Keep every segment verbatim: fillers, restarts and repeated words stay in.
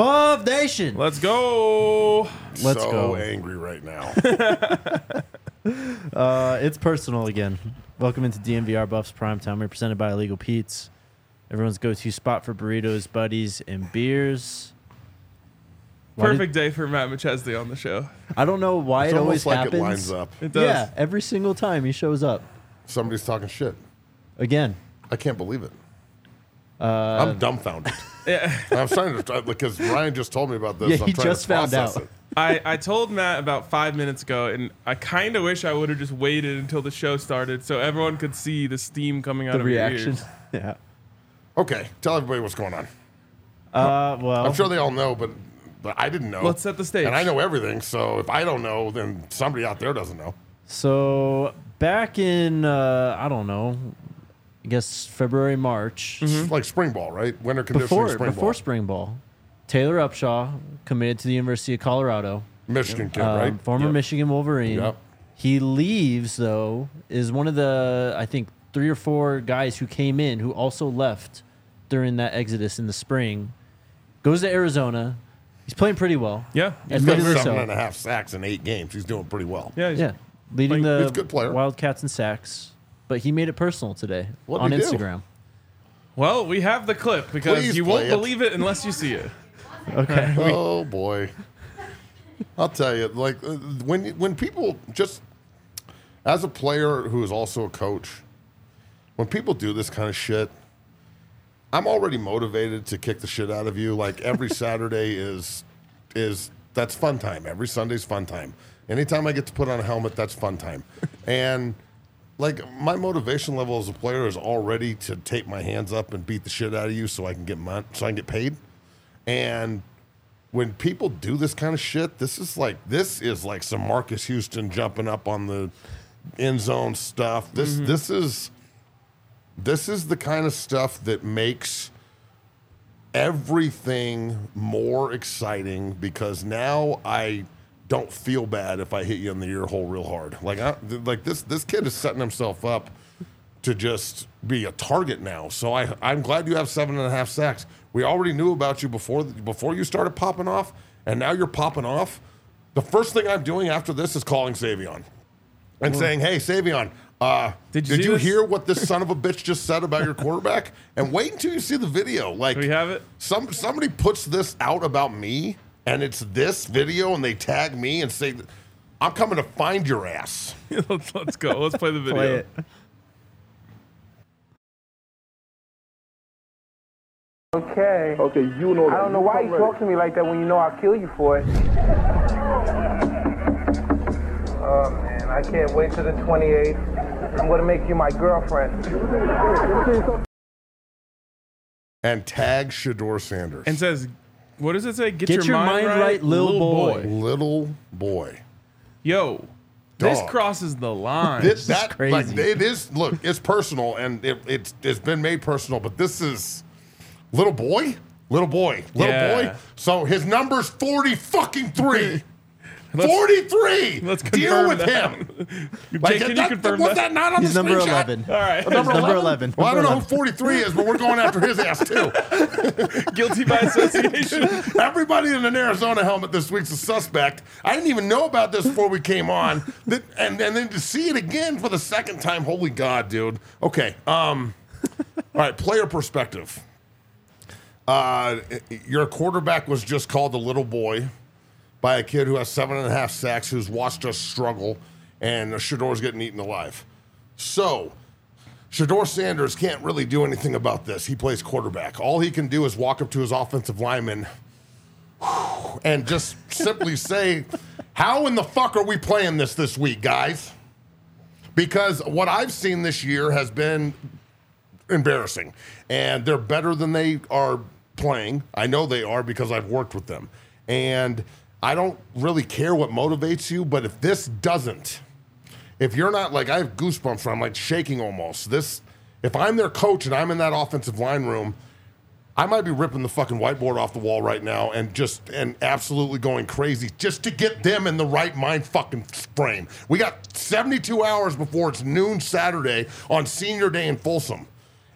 Buff Nation. Let's go. Let's so go. angry right now. uh, it's personal again. Welcome into D M V R Buffs Primetime. We're presented by Illegal Pete's, everyone's go-to spot for burritos, buddies, and beers. Why Perfect did, day for Matt McChesney on the show. I don't know why It's it always almost like happens. it lines up. It does. Yeah, every single time he shows up. Somebody's talking shit. Again. I can't believe it. Uh, I'm dumbfounded. Yeah. I'm trying to because Ryan just told me about this. Yeah, I'm he trying just to found process out. It. I, I told Matt about five minutes ago, and I kind of wish I would have just waited until the show started so everyone could see the steam coming out the of reaction. your ears. Yeah. Okay, tell everybody what's going on. Uh, well, I'm sure they all know, but, but I didn't know. Let's set the stage. And I know everything, so if I don't know, then somebody out there doesn't know. so back in, uh, I don't know, I guess February, March, It's like spring ball, right? Winter conditioning before spring before ball. spring ball, Taylor Upshaw committed to the University of Colorado. Michigan kid, Um, right? Former Yep. Michigan Wolverine. Yep. He leaves, though, is one of the, I think, three or four guys who came in who also left during that exodus in the spring. Goes to Arizona. He's playing pretty well. Yeah. He's got Admittedly seven so. and a half sacks in eight games. He's doing pretty well. Yeah. Yeah. Leading Like, he's a the good player. Wildcats in sacks. But he made it personal today What'd on he do? Instagram. Well, we have the clip because Please you won't play it. believe it unless you see it. Okay. Oh boy, I'll tell you. Like uh, when when people just as a player who is also a coach, when people do this kind of shit, I'm already motivated to kick the shit out of you. Like every Saturday is is that's fun time. Every Sunday's fun time. Anytime I get to put on a helmet, that's fun time. And like my motivation level as a player is already to take my hands up and beat the shit out of you so I can get mon- so I can get paid. And when people do this kind of shit, this is like this is like some Marcus Houston jumping up on the end zone stuff. This Mm-hmm. this is this is the kind of stuff that makes everything more exciting because now I don't feel bad if I hit you in the ear hole real hard. Like I, like this this kid is setting himself up to just be a target now. So I I'm glad you have seven and a half sacks. We already knew about you before before you started popping off, and now you're popping off. The first thing I'm doing after this is calling Savion and saying, "Hey, Savion, uh, Did did you you, see this? hear what this son of a bitch just said about your quarterback?" And wait until you see the video. Like Do we have it? some somebody puts this out about me, and it's this video, and they tag me and say, "I'm coming to find your ass." let's, let's go. Let's play the video. Play it. Okay. Okay, you know that. I don't know why you talk to me like that when you know I'll kill you for it. Oh man, I can't wait till the twenty-eighth. I'm gonna make you my girlfriend. And tag Shador Sanders. And says, what does it say? Get, Get your mind right, lil boy. little boy. Yo, this Dog. crosses the line. This, that crazy. Like, it is. Look, it's personal, and it, it's it's been made personal. But this is little boy, little boy, little Yeah. boy. So his number's forty fucking three. Let's- Forty-three. Let's deal confirm with that. him. Jake, Like, can you that- confirm was that? that not on He's the number screenshot? eleven. All right. He's number eleven. Well, I don't know Number who forty-three is, but we're going after his ass too. Guilty by association. Everybody in an Arizona helmet this week's a suspect. I didn't even know about this before we came on. That, and, and then to see it again for the second time, holy God, dude. Okay. Um, all right, player perspective. Uh, your quarterback was just called a little boy by a kid who has seven and a half sacks, who's watched us struggle, and Shador's getting eaten alive. So, Shador Sanders can't really do anything about this. He plays quarterback. All he can do is walk up to his offensive lineman and just simply say, how in the fuck are we playing this this week, guys? Because what I've seen this year has been embarrassing, and they're better than they are playing. I know they are because I've worked with them. And I don't really care what motivates you, but if this doesn't, if you're not like, I have goosebumps, I'm like shaking almost. This, if I'm their coach and I'm in that offensive line room, I might be ripping the fucking whiteboard off the wall right now and just, and absolutely going crazy just to get them in the right mind fucking frame. We got seventy-two hours before it's noon Saturday on senior day in Folsom.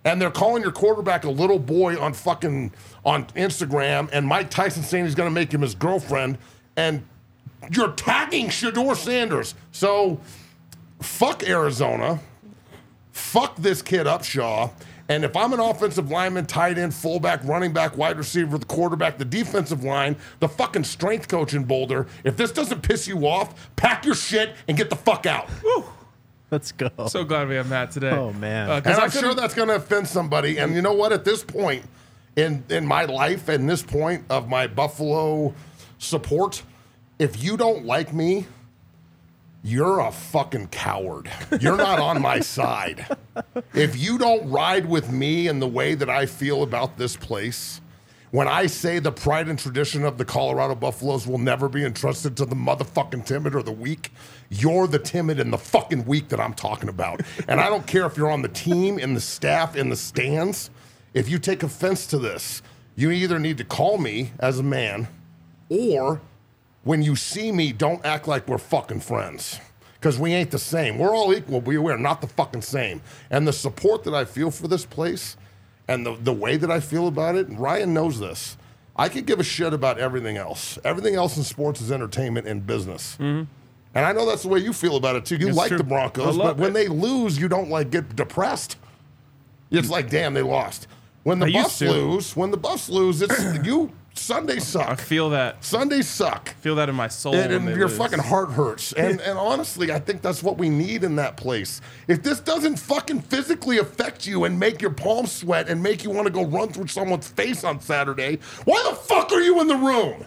And they're calling your quarterback a little boy on fucking on Instagram, and Mike Tyson saying he's going to make him his girlfriend, and you're tagging Shedeur Sanders. So fuck Arizona. Fuck this kid Upshaw. And if I'm an offensive lineman, tight end, fullback, running back, wide receiver, the quarterback, the defensive line, the fucking strength coach in Boulder, if this doesn't piss you off, pack your shit and get the fuck out. Woo. Let's go. So glad we have Matt today. Oh, man. Uh, 'cause And I I'm sure couldn't- that's going to offend somebody. And you know what? At this point in, in my life and this point of my Buffalo support, if you don't like me, you're a fucking coward. You're not on my side. If you don't ride with me in the way that I feel about this place, when I say the pride and tradition of the Colorado Buffaloes will never be entrusted to the motherfucking timid or the weak, you're the timid and the fucking weak that I'm talking about. And I don't care if you're on the team, in the staff, in the stands. If you take offense to this, you either need to call me as a man, or when you see me, don't act like we're fucking friends. Because we ain't the same. We're all equal, but we're not the fucking same. And the support that I feel for this place and the, the way that I feel about it, Ryan knows this. I could give a shit about everything else. Everything else in sports is entertainment and business. Mm-hmm. And I know that's the way you feel about it too. You It's like true. the Broncos, I love but when it. they lose, you don't like get depressed. It's like, damn, they lost. When the I used Buffs to. lose, when the Buffs lose, it's you. Sundays I suck. feel that. Sundays suck. Feel that in my soul. And, when and they your lose. fucking heart hurts. And and honestly, I think that's what we need in that place. If this doesn't fucking physically affect you and make your palms sweat and make you want to go run through someone's face on Saturday, why the fuck are you in the room?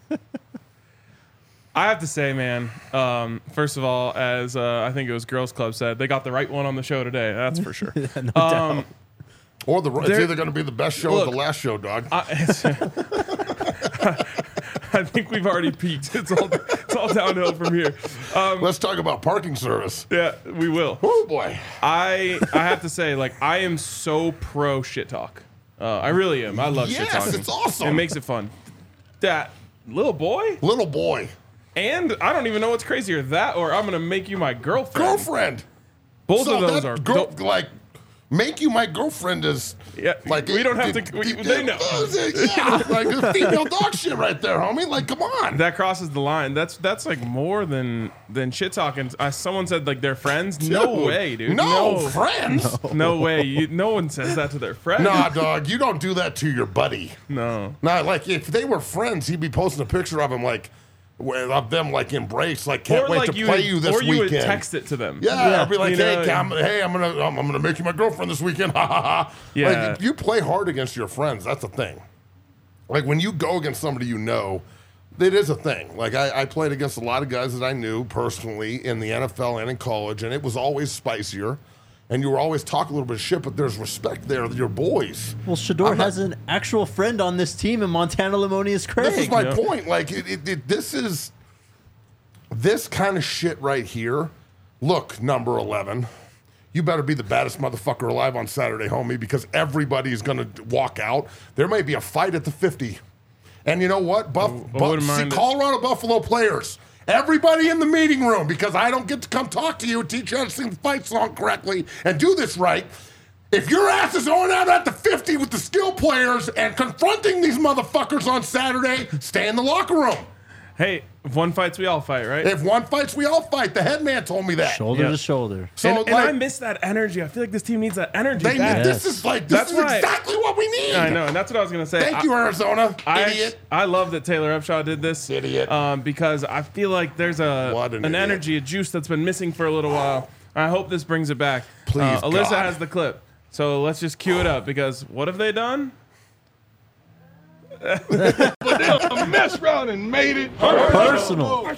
I have to say, man. Um, first of all, as uh, I think it was Girls Club said, they got the right one on the show today. That's for sure. no um, doubt. Or the it's There- either going to be the best show Look, or the last show, dog. I, it's- I think we've already peaked. It's all it's all downhill from here. Um, Let's talk about parking service. yeah, we will. Oh boy. I I have to say, like, I am so pro shit talk. Uh, I really am. I love shit Yes, talking. it's awesome. It makes it fun. That little boy, Little boy. and I don't even know what's crazier, that or I'm gonna make you my girlfriend. Girlfriend. Both So of those that are girl, dope. like, make you my girlfriend is Yeah, like we don't have it- to- we- it- they know. Yeah, like the female dog shit right there, homie. Like, come on. That crosses the line. That's that's like more than than shit talking. Uh, someone said like they're friends. No Dude, way, dude. No, no, friends. no way. You, no one says that to their friend. Nah, dog, you don't do that to your buddy. No. Nah, like if they were friends, he'd be posting a picture of him like with- of them like embraced, like can't Or wait like to you play would, you this or you weekend. would text it to them. Yeah, Yeah. I'd be like, You hey, know, Cam, hey, I'm gonna, I'm, I'm gonna make you my girlfriend this weekend. Ha ha ha. Yeah. Like, you play hard against your friends. That's a thing. Like when you go against somebody you know, it is a thing. Like I, I played against a lot of guys that I knew personally in the N F L and in college, and it was always spicier. And you were always talking a little bit of shit, but there's respect there. Your boys. Well, Shedeur I'm not- has an actual friend on this team in Montana Lemonious Craig. This is my Yeah. point. Like it, it, it, this is this kind of shit right here. Look, number eleven, you better be the baddest motherfucker alive on Saturday, homie, because everybody is going to walk out. There may be a fight at the fifty. And you know what? Buff, I Buff, wouldn't see, mind it. Colorado Buffalo players, everybody in the meeting room, because I don't get to come talk to you and teach you how to sing the fight song correctly and do this right. If your ass is going out at the fifty with the skill players and confronting these motherfuckers on Saturday, stay in the locker room. Hey, if one fights, we all fight, right? If one fights, we all fight. The head man told me that. shoulder Yeah. to shoulder. So and, like, and I miss that energy. I feel like this team needs that energy they, back. this is like this That's is why- exactly what we need. I know, and that's what I was gonna say. Thank I, you, Arizona. I, Idiot. act- I love that Taylor Upshaw did this. Idiot. Um, because I feel like there's a What an an, idiot. energy, a juice that's been missing for a little while. I hope this brings it back. Please, uh, Alyssa God. has the clip, so let's just cue it up because what have they done? Messed around and made it. Personal.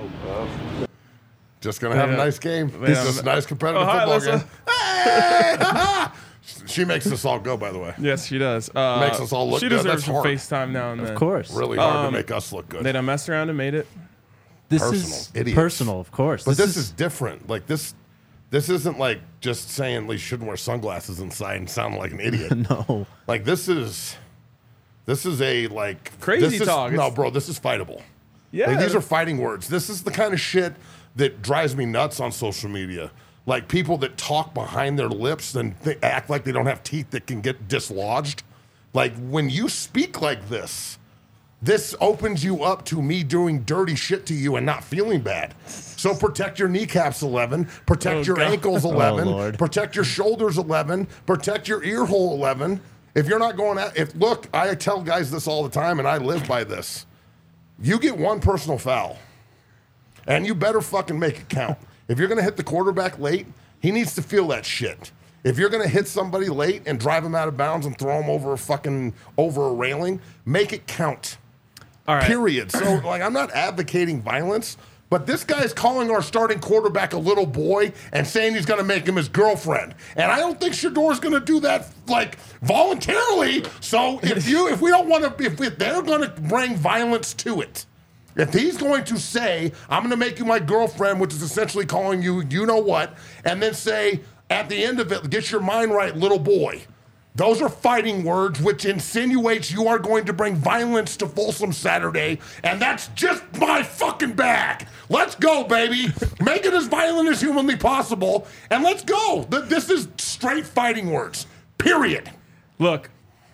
Just gonna have Yeah. a nice game. Yeah. This is a nice competitive Oh, hi, football Alyssa. game. Hey! She makes us all go, by the way. Yes, she does. Uh, Makes us all look She good. deserves That's some hard. FaceTime now and then. Of course. Really hard Um, to make us look good. They done messed around and made it. This Personal. is Idiots. personal, of course. But this, is, different. Like this, this isn't like just saying you shouldn't wear sunglasses inside and sound like an idiot. no. Like this is, this is a like Crazy this is- talk. No, It's- bro, this is fightable. Yeah. Like, these are fighting words. This is the kind of shit that drives me nuts on social media. like people that talk behind their lips and th- act like they don't have teeth that can get dislodged. Like when you speak like this, this opens you up to me doing dirty shit to you and not feeling bad. So protect your kneecaps, eleven. Protect Oh, your God. ankles, eleven. Oh, Lord. Protect your shoulders, eleven. Protect your ear hole, eleven. If you're not going at, if look, I tell guys this all the time, and I live by this. You get one personal foul, and you better fucking make it count. If you're gonna hit the quarterback late, he needs to feel that shit. If you're gonna hit somebody late and drive him out of bounds and throw him over a fucking over a railing, make it count. All right. Period. So, like, I'm not advocating violence, but this guy's calling our starting quarterback a little boy and saying he's going to make him his girlfriend. And I don't think Shador's going to do that, like, voluntarily. So, if you, if we don't want to, if, we, if they're going to bring violence to it, if he's going to say, I'm going to make you my girlfriend, which is essentially calling you, you know what, and then say, at the end of it, get your mind right, little boy. Those are fighting words, which insinuates you are going to bring violence to Folsom Saturday, and that's just my fucking bag. Let's go, baby. Make it as violent as humanly possible, and let's go. Th- This is straight fighting words, period. Look,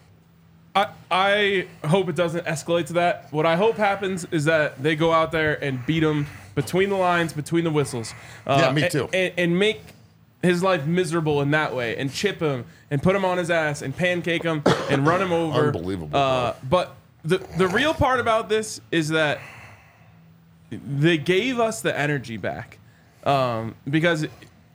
I I hope it doesn't escalate to that. What I hope happens is that they go out there and beat him between the lines, between the whistles. Uh, Yeah, me and- too. And, and make his life miserable in that way, and chip him, and put him on his ass, and pancake him, and run him over. Unbelievable, Uh, but the the real part about this is that they gave us the energy back, um, because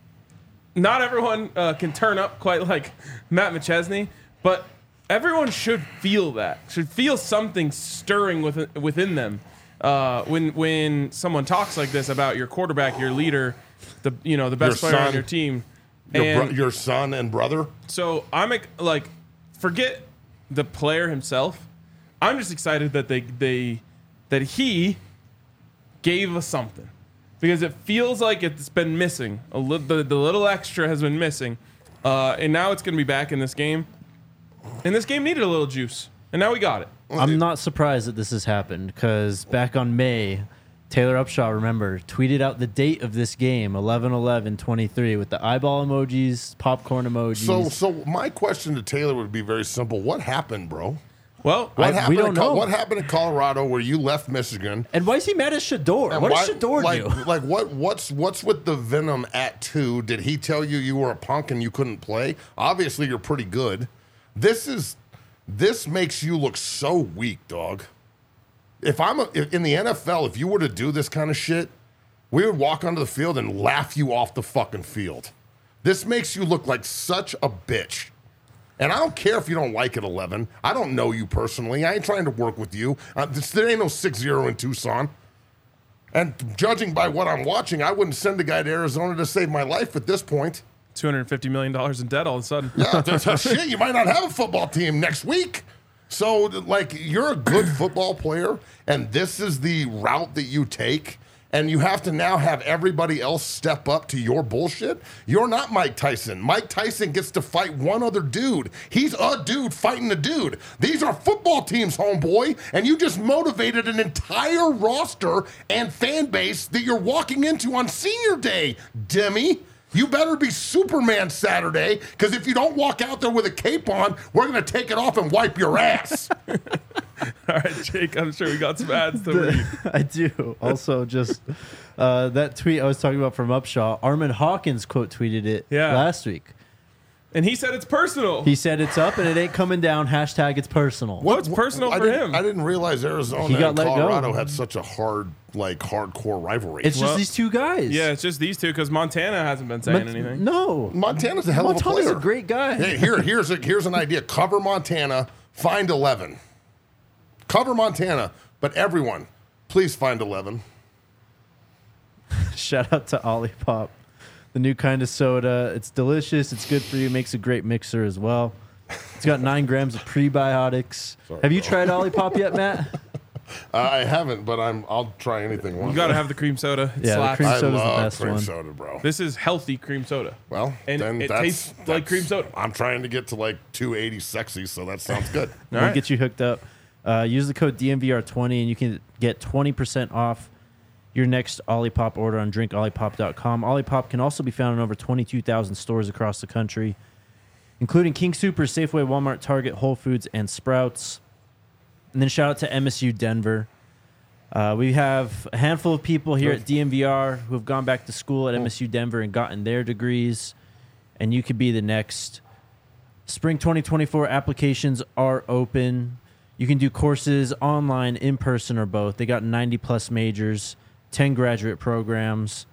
not everyone uh, can turn up quite like Matt McChesney, but everyone should feel that, should feel something stirring within, within them uh, when when someone talks like this about your quarterback, your leader, the you know the best Your player on son. your team. Your, And bro- your son and brother. so I'm ex- like, forget the player himself. I'm just excited that they they that he gave us something, because it feels like it's been missing a little. The, the little extra has been missing, uh, and now it's going to be back in this game. And this game needed a little juice, and now we got it. I'm not surprised that this has happened because back on May, Taylor Upshaw, remember, tweeted out the date of this game, eleven eleven twenty-three, with the eyeball emojis, popcorn emojis. So, so my question to Taylor would be very simple. What happened, bro? Well, What I- happened? we don't in Col- know. What happened in Colorado where you left Michigan? and why is he mad at Shador? And What why- does Shador like, do? Like what? What's what's with the venom at two? Did he tell you you were a punk and you couldn't play? Obviously, you're pretty good. This is this makes you look so weak, dog. If I'm a, if, in the N F L, if you were to do this kind of shit, we would walk onto the field and laugh you off the fucking field. This makes you look like such a bitch. And I don't care if you don't like it, eleven. I don't know you personally. I ain't trying to work with you. Uh, this, there ain't no six zero in Tucson. And judging by what I'm watching, I wouldn't send a guy to Arizona to save my life at this point. two hundred fifty million dollars in debt all of a sudden. Yeah, that's shit. You might not have a football team next week. So, like, you're a good football player, and this is the route that you take, and you have to now have everybody else step up to your bullshit. You're not Mike Tyson. Mike Tyson gets to fight one other dude. He's a dude fighting a dude. These are football teams, homeboy, and you just motivated an entire roster and fan base that you're walking into on senior day, Demi. You better be Superman Saturday, because if you don't walk out there with a cape on, we're going to take it off and wipe your ass. All right, Jake, I'm sure we got some ads to read. I do. Also, just uh, that tweet I was talking about from Upshaw, Armin Hawkins quote tweeted it Yeah. last week. And he said it's personal. He said it's up and it ain't coming down. Hashtag it's personal. What's personal I for didn't- him? I didn't realize Arizona He got and let go. Colorado had such a hard, like, hardcore rivalry. It's Well- just these two guys. Yeah, it's just these two because Montana hasn't been saying Mon- anything. No. Montana's a hell of a Montana's player. a great guy. Hey, here, here's a, here's an idea. Cover Montana, find eleven. Cover Montana, but everyone, please find eleven. Shout out to Olipop, the new kind of soda. It's delicious. It's good for you. Makes a great mixer as well. It's got nine grams of prebiotics. Have you tried Olipop yet, Matt? Uh, I haven't, but I'm. I'll try anything once. You got to have the cream soda. It Yeah, the slaps. cream I soda's the love best cream one. soda, bro. This is healthy cream soda. Well, And then it that's, tastes like that's- cream soda. I'm trying to get to like two eighty sexy, so that sounds good. All we'll right. get you hooked up. Uh, use the code D M V R twenty and you can get twenty percent off your next Olipop order on drink olipop dot com. Olipop can also be found in over twenty-two thousand stores across the country, including King Soopers, Safeway, Walmart, Target, Whole Foods, and Sprouts. And then shout out to M S U Denver. Uh, we have a handful of people here at D M V R who have gone back to school at M S U Denver and gotten their degrees, and you could be the next. Spring twenty twenty-four applications are open. You can do courses online, in person, or both. They got ninety plus majors, ten graduate programs.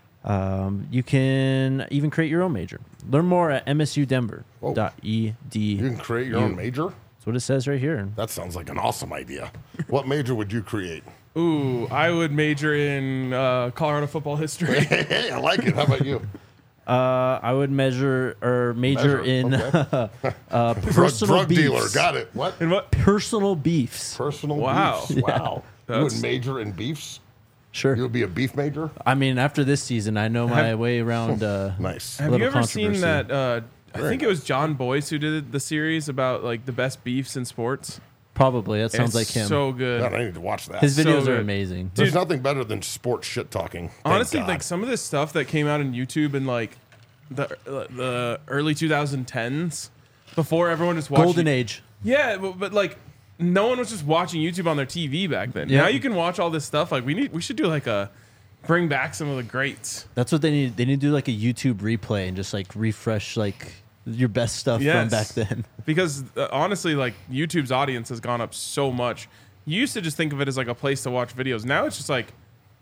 Um, you can even create your own major. Learn more at m s u denver dot e d u. You can create your own major? That's what it says right here. That sounds like an awesome idea. What major would you create? Ooh, I would major in uh, Colorado football history. Hey, I like it. How about you? Uh, I would measure or major Measure, in okay. uh, Drug, personal drug beefs. dealer. Got it. What? And what? Personal beefs. Personal Wow. beefs. Wow. You That's- would major in beefs? Sure. You would be a beef major? I mean, after this season, I know my way around. Uh, Nice. Have little you ever seen controversy. that? Uh, I think it was John Boyce who did the series about like the best beefs in sports. Probably. That sounds like It's him. So good. God, I need to watch that. His so videos are good. amazing. There's Dude. nothing better than sports shit talking. Thank Honestly, God. like some of this stuff that came out on YouTube in like the uh, the early twenty tens, before everyone was watching. Golden Age. Yeah, but, but like no one was just watching YouTube on their T V back then. Yeah. Now you can watch all this stuff. Like we need, we should do like a bring back some of the greats. That's what they need. They need to do like a YouTube replay and just like refresh like your best stuff Yes. from back then. Because uh, honestly, like YouTube's audience has gone up so much. You used to just think of it as like a place to watch videos. Now it's just like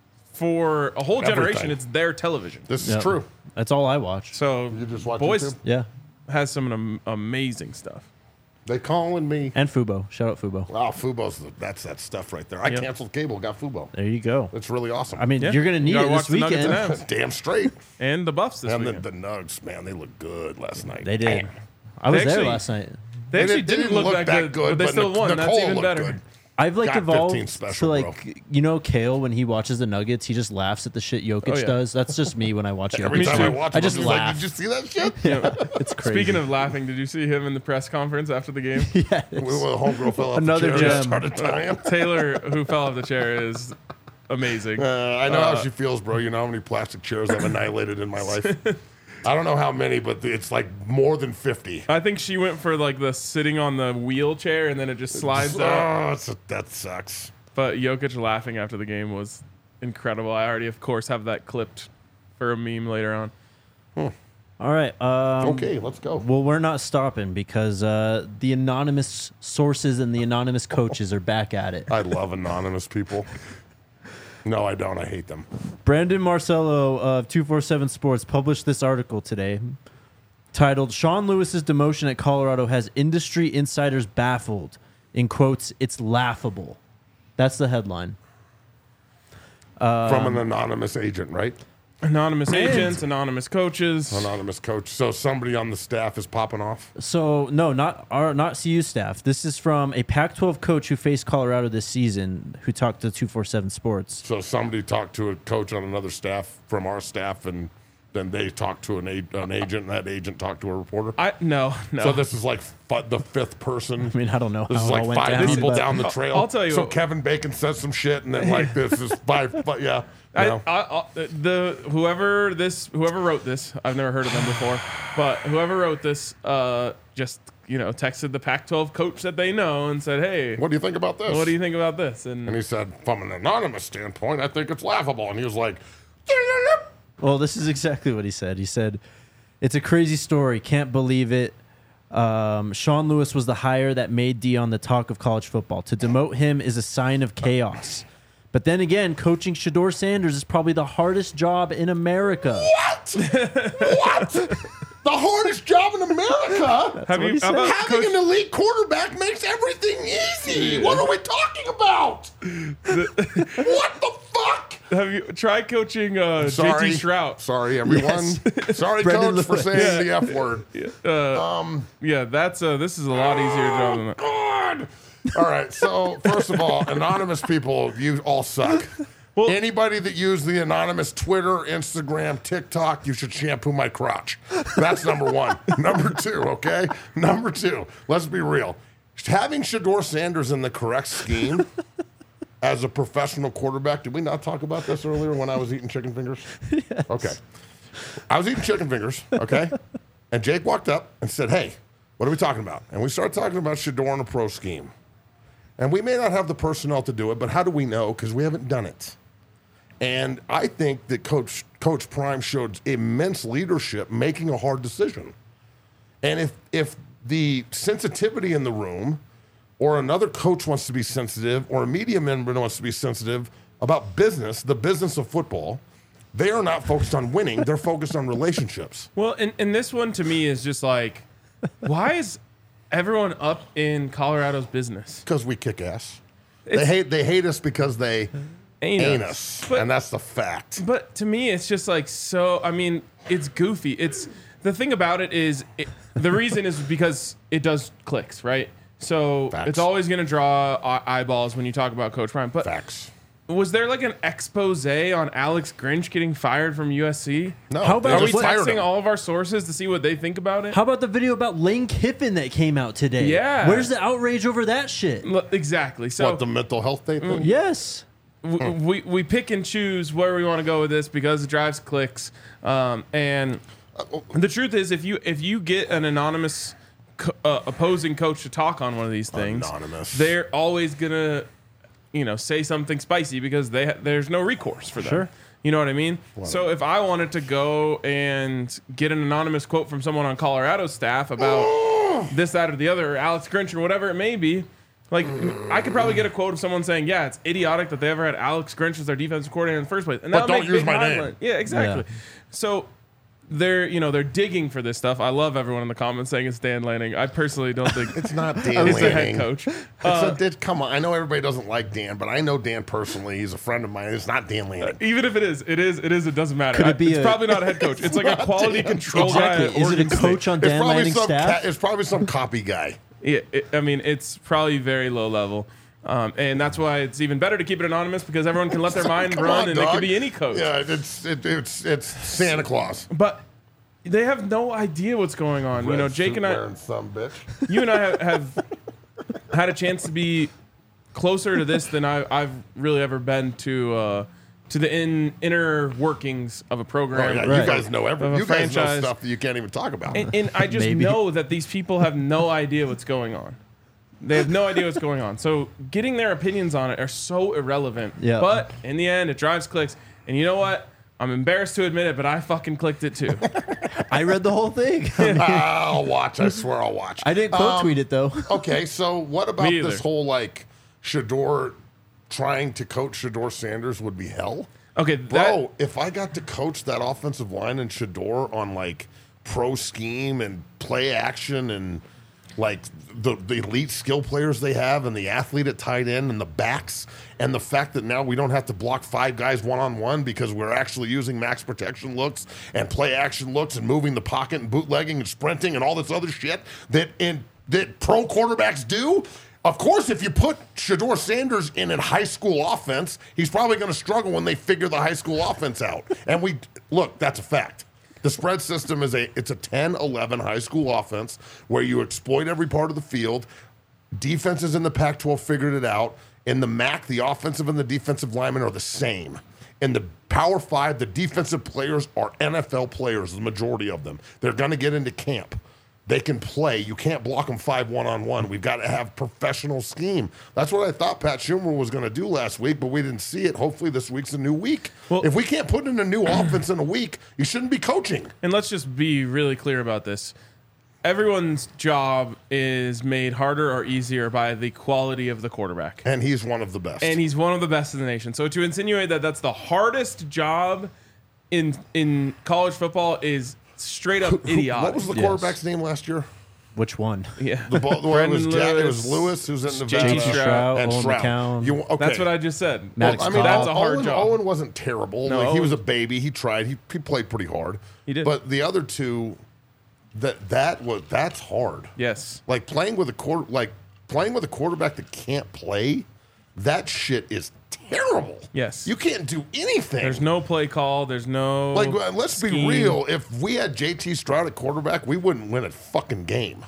for a whole generation, Everything. it's their television. This is Yep. true. That's all I watch. So You just watch Boyce YouTube? Yeah. has some am- amazing stuff. They calling me. And Fubo. Shout out Fubo. Wow, Fubo's the, that's that stuff right there. I Yep. canceled cable, got Fubo. There you go. It's really awesome. I mean, Yeah. you're gonna You need gotta it watch this the Nuggets weekend. and Avs. damn straight. And the Buffs this And the, weekend. the Nugs, man, they look good last night. They did. Damn. I was They there actually- last night. they actually they didn't, look, that good, but they but still Nic- won. That's Nicole even looked better. good. I've like Got evolved fifteen special, to like bro. you know Kale when he watches the Nuggets, he just laughs at the shit Jokic Oh, yeah. does. That's just me when I watch Every Jokic. time too. I watch I it, just I'm like, laugh. did you see that shit? It's crazy. Speaking of laughing, did you see him in the press conference after the game? yes. When the homegirl fell off Another the chair and gem. started dying. Taylor, who fell off the chair, is amazing. Uh, I know Uh, how she feels, bro. You know how many plastic chairs I've annihilated in my life? I don't know how many, but it's like more than fifty. I think she went for like the sitting on the wheelchair and then it just slides oh, out. it's a, that sucks. But Jokic laughing after the game was incredible. I already, of course, have that clipped for a meme later on. All right. Um, Okay, let's go. Well, we're not stopping because uh, the anonymous sources and the anonymous coaches are back at it. I love anonymous people. No, I don't. I hate them. Brandon Marcello of two forty-seven Sports published this article today titled Sean Lewis's demotion at Colorado has industry insiders baffled. In quotes, it's laughable. That's the headline. From an anonymous agent, right? Anonymous agents, anonymous coaches. Anonymous coach. So somebody on the staff is popping off. So no, not our not C U staff. This is from a Pac twelve coach who faced Colorado this season, who talked to two forty-seven Sports. So somebody talked to a coach on another staff from our staff, and then they talked to an, a- an agent, and that agent talked to a reporter. I no no. So this is like f- the fifth person. I mean, I don't know This how is it like all went five down. people but- down the trail. I'll tell you So what- Kevin Bacon says some shit, and then like this is five. But yeah, you I, know. I, I, the whoever this whoever wrote this, I've never heard of them before, but whoever wrote this, uh, just you know, texted the Pac twelve coach that they know and said, "Hey, What do you think about this? what do you think about this?" And And he said, from an anonymous standpoint, I think it's laughable. And he was like, Well, this is exactly what he said. He said, "It's a crazy story. Can't believe it. Um, Sean Lewis was the hire that made Dion the talk of college football. To demote him is a sign of chaos. But then again, coaching Shedeur Sanders is probably the hardest job in America." what? what? The hardest job in America? have what you he how said. about Having Coach, an elite quarterback makes everything easy. What are we talking about? what the fuck? have you tried coaching uh, J Sorry. T Shrout? Sorry, everyone. Sorry, Brendan coach, for Lewis. saying the F word. Uh, Um, yeah, that's uh, this is a lot easier job than that. God. All right. So first of all, anonymous people, you all suck. Well- Anybody that used the anonymous Twitter, Instagram, TikTok, you should shampoo my crotch. That's number one. Number two, okay? Number two, let's be real. Having Shedeur Sanders in the correct scheme as a professional quarterback. Did we not talk about this earlier when I was eating chicken fingers? Yes. Okay. I was eating chicken fingers, okay? And Jake walked up and said, hey, what are we talking about? And we started talking about Shedeur and a pro scheme. And we may not have the personnel to do it, but how do we know? Because we haven't done it. And I think that Coach Coach Prime showed immense leadership making a hard decision. And if if the sensitivity in the room, or another coach wants to be sensitive, or a media member wants to be sensitive about business, the business of football, they are not focused on winning. They're focused on relationships. Well, and, and this one to me is just like, why is everyone up in Colorado's business? Because we kick ass. It's, they hate they hate us because they ain't, ain't us. us, but, and that's the fact. But to me, it's just like so. I mean, it's goofy. It's the thing about it is it, the reason is because it does clicks, right? So Facts. It's always going to draw eyeballs when you talk about Coach Prime. But Facts. Was there like an expose on Alex Grinch getting fired from U S C? No. How about Are we what- texting all of our sources to see what they think about it? How about the video about Lane Kiffin that came out today? Yeah. Where's the outrage over that shit? L- Exactly. So What, the mental health thing? Mm. Yes. w- we we pick and choose where we want to go with this because it drives clicks. Um, and the truth is, if you if you get an anonymous co- uh, opposing coach to talk on one of these things, Anonymous. they're always gonna, you know, say something spicy because they ha- there's no recourse for them. Sure. You know what I mean? So if I wanted to go and get an anonymous quote from someone on Colorado's staff about this, that, or the other, or Alex Grinch, or whatever it may be, like I could probably get a quote of someone saying, "Yeah, it's idiotic that they ever had Alex Grinch as their defensive coordinator in the first place." And But that'll don't make use big my name. headline. Yeah, exactly. Yeah. So they're you know they're digging for this stuff. I love everyone in the comments saying it's Dan Lanning. I personally don't think It's not Dan he's the head Lanning. coach. It's Uh, a, it, come on, I know everybody doesn't like Dan, but I know Dan personally. He's a friend of mine. It's not Dan Lanning. Even if it is, it is, it is, it doesn't matter. Could it be it's a- probably not a head coach. It's like a not quality Dan. control Exactly. guy. at Is it a Oregon State. coach on It's Dan probably Lanning's some staff? ca- it's probably some copy guy. Yeah, it, I mean, it's probably very low level. Um, and that's why it's even better to keep it anonymous because everyone can let their mind Come run on, and it dog. could be any coach. Yeah, it's it, it's it's Santa Claus. But they have no idea what's going on. you know, Red Jake suit and I, wearing some bitch. you and I have, have had a chance to be closer to this than I, I've really ever been to uh, to the in, inner workings of a Oh, program. yeah, Right. you guys know everything. Of a You guys know franchise. stuff that you can't even talk about. And, and I just Maybe. know that these people have no idea what's going on. They have no idea what's going on. So getting their opinions on it are so irrelevant. Yeah. But in the end, it drives clicks. And you know what? I'm embarrassed to admit it, but I fucking clicked it too. I read the whole thing. I'll watch. I swear I'll watch. I didn't quote Um, tweet it though. Okay, so what about Me this either. whole like Shedeur trying to coach Shedeur Sanders would be hell? Okay, that, Bro, if I got to coach that offensive line and Shedeur on like pro scheme and play action and like the, the elite skill players they have and the athlete at tight end and the backs and the fact that now we don't have to block five guys one-on-one because we're actually using max protection looks and play action looks and moving the pocket and bootlegging and sprinting and all this other shit that in that pro quarterbacks do. Of course, if you put Shedeur Sanders in a high school offense, he's probably going to struggle when they figure the high school offense out. And we look, that's a fact. The spread system is a it's a ten eleven high school offense where you exploit every part of the field. Defenses in the Pac twelve figured it out. In the M A C, the offensive and the defensive linemen are the same. In the Power Five, the defensive players are N F L players, the majority of them. They're going to get into camp. They can play. You can't block them five one-on-one. We've got to have professional scheme. That's what I thought Pat Schumer was going to do last week, but we didn't see it. Hopefully this week's a new week. Well- if we can't put in a new offense in a week, you shouldn't be coaching. and let's just be really clear about this. Everyone's job is made harder or easier by the quality of the quarterback. And he's one of the best. And he's one of the best in the nation. So to insinuate that that's the hardest job in in college football is straight up idiotic. What was the Yes. quarterback's name last year? Which one? Yeah. The ball, where it was Brendan Jack, it was Lewis, Lewis who's in J T Nevada, Stroud, and Owen Stroud. McCown. You, okay. That's what I just said. Maddox I mean, that's Owen, a hard Owen, job. Owen wasn't terrible. No, like, he Owen- was a baby. He tried. He, he played pretty hard. He did. But the other two, that that was that's hard. Yes. Like playing with a quarter, like playing with a quarterback that can't play, that shit is terrible. Yes. You can't do anything. There's no play call. There's no like uh, let's be scheme. real. If we had J T Stroud at quarterback, we wouldn't win a fucking game.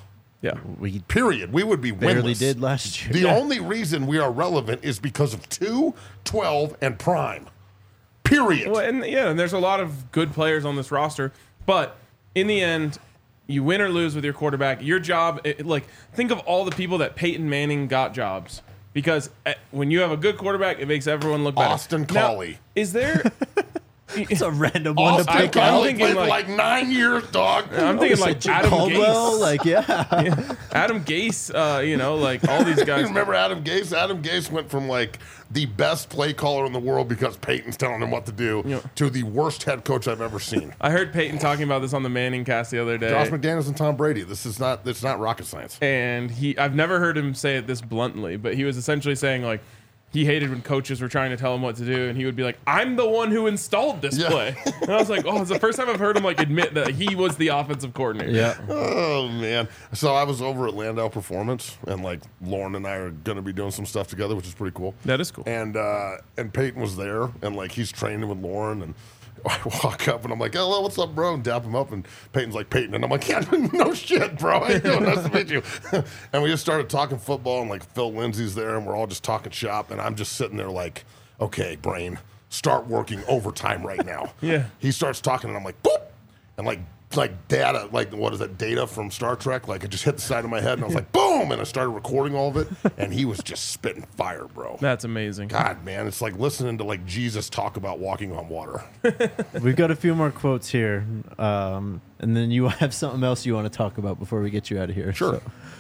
Yeah. We Period. We would be barely winless. did last year. The Yeah. only reason we are relevant is because of two, twelve, and Prime. Period. Well, and yeah, and there's a lot of good players on this roster, but in the end, you win or lose with your quarterback. Your job, it, like, think of all the people that Peyton Manning got jobs because uh, when you have a good quarterback, it makes everyone look better. Austin Now, Collie. is there? It's a random one to Austin pick I'm out. Collie thinking played for like- like nine years, dog. I'm thinking like Jim Adam Caldwell, Gase, like yeah. Adam Gase, uh, you know, like all these You guys. remember Adam Gase? Adam Gase went from like the best play caller in the world because Peyton's telling him what to do Yeah. to the worst head coach I've ever seen. I heard Peyton talking about this on the Manning cast the other day. Josh McDaniels and Tom Brady. This is not. It's not rocket science. and he I've never heard him say it this bluntly, but he was essentially saying like he hated when coaches were trying to tell him what to do, and he would be like, "I'm the one who installed this Yeah. play." And I was like, "Oh, it's the first time I've heard him like admit that he was the offensive coordinator." Yeah. Oh man! So I was over at Landau Performance, and like Lauren and I are going to be doing some stuff together, which is pretty cool. That is cool. And uh, and Peyton was there, and like he's training with Lauren, and I walk up and I'm like, "Hello, what's up, bro?" And dap him up, and Peyton's like, "Peyton," and I'm like, "Yeah, no shit, bro. How you doing? Nice to meet you." And we just started talking football, and like Phil Lindsay's there, and we're all just talking shop, and I'm just sitting there like, "Okay, brain, start working overtime right now." Yeah. He starts talking, and I'm like, "Boop," and like. Like data, like what is that data from Star Trek? Like it just hit the side of my head, and I was like, "Boom!" And I started recording all of it, and he was just spitting fire, bro. That's amazing. God, man, it's like listening to like Jesus talk about walking on water. We've got a few more quotes here, um, and then you have something else you want to talk about before we get you out of here. Sure. So,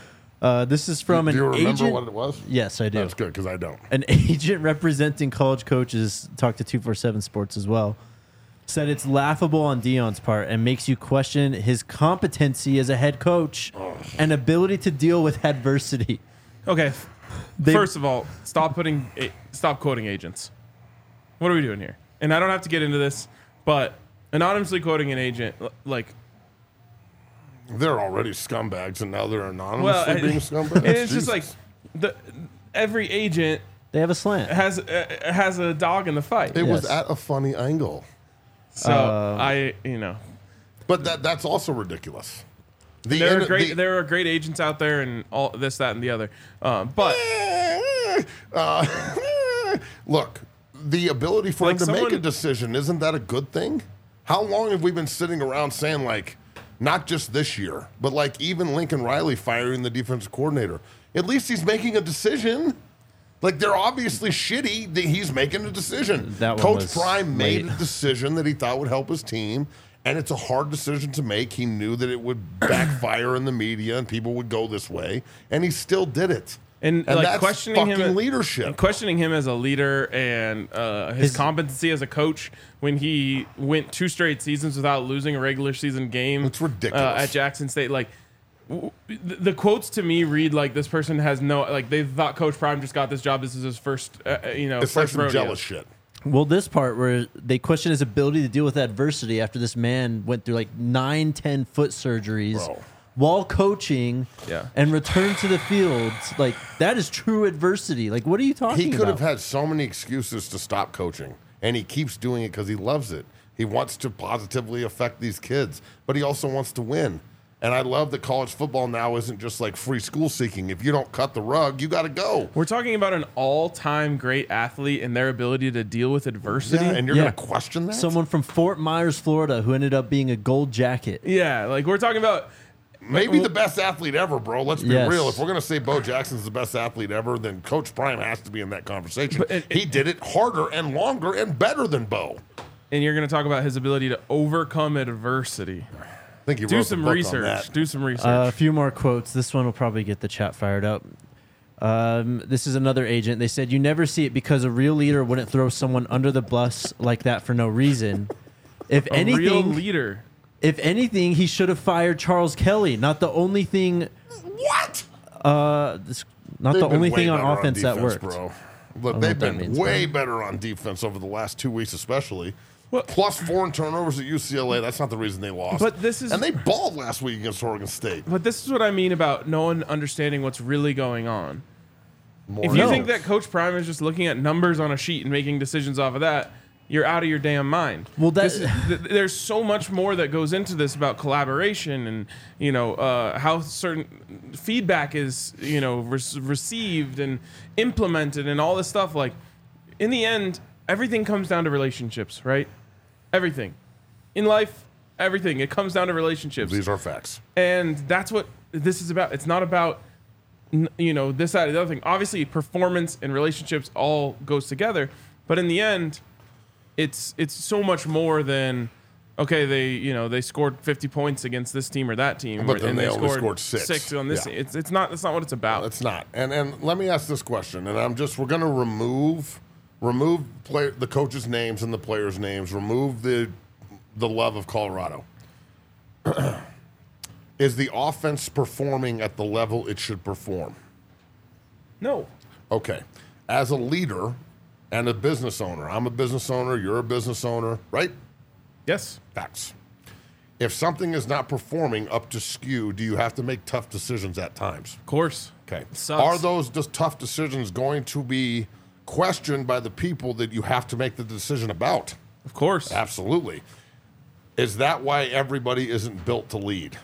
uh, this is from Do an you remember agent. what it was? Yes, I do. That's good because I don't. An agent representing college coaches talked to two forty-seven Sports as well. Said it's laughable on Deion's part and makes you question his competency as a head coach and ability to deal with adversity. Okay. They- First of all, stop putting a- stop quoting agents. What are we doing here? And I don't have to get into this, but anonymously quoting an agent, l- like, They're already scumbags, and now they're anonymously well, I- being scumbags. and it's just Jesus. like the every agent They have a slant. has uh, has a dog in the fight. it was yes. at a funny angle, So Uh, I, you know, but that that's also ridiculous. The there are in- great the- there are great agents out there and all this, that, and the other. Um, but Uh, look, the ability for Like him to make a someone- decision, isn't that a good thing? How long have we been sitting around saying, like, not just this year, but like even Lincoln Riley firing the defensive coordinator? At least he's making a decision. Like, they're obviously shitty that he's making a decision. That one Coach was Prime made late. a decision that he thought would help his team, and it's a hard decision to make. He knew that it would backfire in the media and people would go this way, and he still did it. and, And like that's questioning him, fucking leadership. questioning him as a leader and uh, his, His- competency as a coach when he went two straight seasons without losing a regular season game. It's ridiculous. uh, at Jackson State. Like w- the, the quotes to me read like this person has no like they thought Coach Prime just got this job. This is his first, uh, you know, It's like first some rodeo. jealous shit. Well, this part where they question his ability to deal with adversity after this man went through like nine, ten foot surgeries Bro. while coaching Yeah. and returned to the field. Like, that is true adversity. Like, what are you talking He about? could have had so many excuses to stop coaching, and he keeps doing it because he loves it. He wants to positively affect these kids, but he also wants to win. And I love that college football now isn't just like free school seeking. If you don't cut the rug, you got to go. We're talking about an all-time great athlete and their ability to deal with adversity. Yeah, and you're Yeah. going to question that? Someone from Fort Myers, Florida, who ended up being a gold jacket. Yeah, like we're talking about. Maybe the best athlete ever, bro. Let's be Yes. real. If we're going to say Bo Jackson's the best athlete ever, then Coach Prime has to be in that conversation. But it- he did it harder and longer and better than Bo. And you're going to talk about his ability to overcome adversity. I think he Do wrote some the book on research. that. Do some research. Uh, a few more quotes. This one will probably get the chat fired up. Um, this is another agent. They said, "You never see it because a real leader wouldn't throw someone under the bus like that for no reason. If a real anything, leader. if anything, he should have fired Charles Kelly. Not the only thing. What? Uh, this, not They've the been only way thing on better offense that defense, worked. bro. Look, know they've what that been means, way man. better on defense over the last two weeks, especially. Well- Plus four turnovers at U C L A. That's not the reason they lost. But this is- and they balled last week against Oregon State. But this is what I mean about no one understanding what's really going on. More If you than- think that Coach Prime is just looking at numbers on a sheet and making decisions off of that, you're out of your damn mind. Well, that- This is- th- there's so much more that goes into this about collaboration and, you know, uh, how certain feedback is, you know, re- received and implemented and all this stuff. Like, in the end, everything comes down to relationships, right? Everything. In life, everything. It comes down to relationships. These are facts. And that's what this is about. It's not about, n- you know, this, that, or the other thing. Obviously, performance and relationships all goes together. But in the end, it's it's so much more than, okay, they you know they scored fifty points against this team or that team, But or, then and they they only scored, scored six. six on this. Yeah. Team. It's it's not that's not what it's about. It's not. And and let me ask this question, and I'm just we're going to remove remove play, the coaches' names and the players' names. Remove the the love of Colorado. Is the offense performing at the level it should perform? No. Okay. As a leader and a business owner, I'm a business owner, you're a business owner, right? Yes. Facts. If something is not performing up to skew, do you have to make tough decisions at times? Of course. Okay. Sucks. Are those just tough decisions going to be questioned by the people that you have to make the decision about? Of course. Absolutely. Is that why everybody isn't built to lead?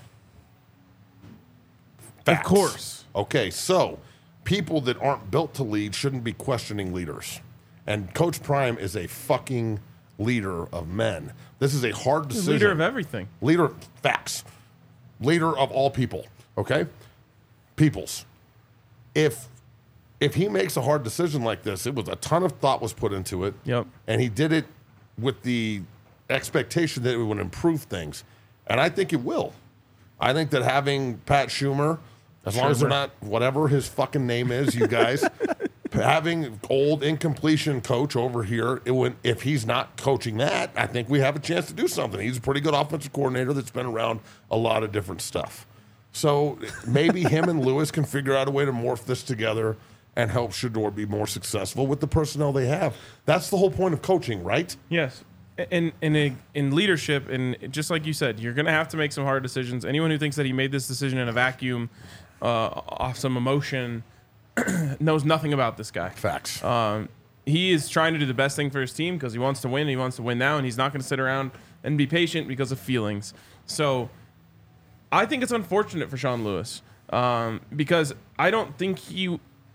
Of course. Okay, so people that aren't built to lead shouldn't be questioning leaders. And Coach Prime is a fucking leader of men. This is a hard decision. Leader of everything. Leader, facts. Leader of all people, okay? Peoples. If if he makes a hard decision like this, it was a ton of thought was put into it. Yep. And he did it with the expectation that it would improve things. And I think it will. I think that having Pat Schumer, as long as they're not whatever his fucking name is, you guys, having old incompletion coach over here, it would, if he's not coaching that, I think we have a chance to do something. He's a pretty good offensive coordinator that's been around a lot of different stuff. So maybe him and Lewis can figure out a way to morph this together and help Shedeur be more successful with the personnel they have. That's the whole point of coaching, right? Yes. And in, in, in leadership, and just like you said, you're going to have to make some hard decisions. Anyone who thinks that he made this decision in a vacuum, uh, off some emotion, knows nothing about this guy. Facts. Um, he is trying to do the best thing for his team because he wants to win. And he wants to win now, and he's not going to sit around and be patient because of feelings. So I think it's unfortunate for Sean Lewis um, because I don't think he.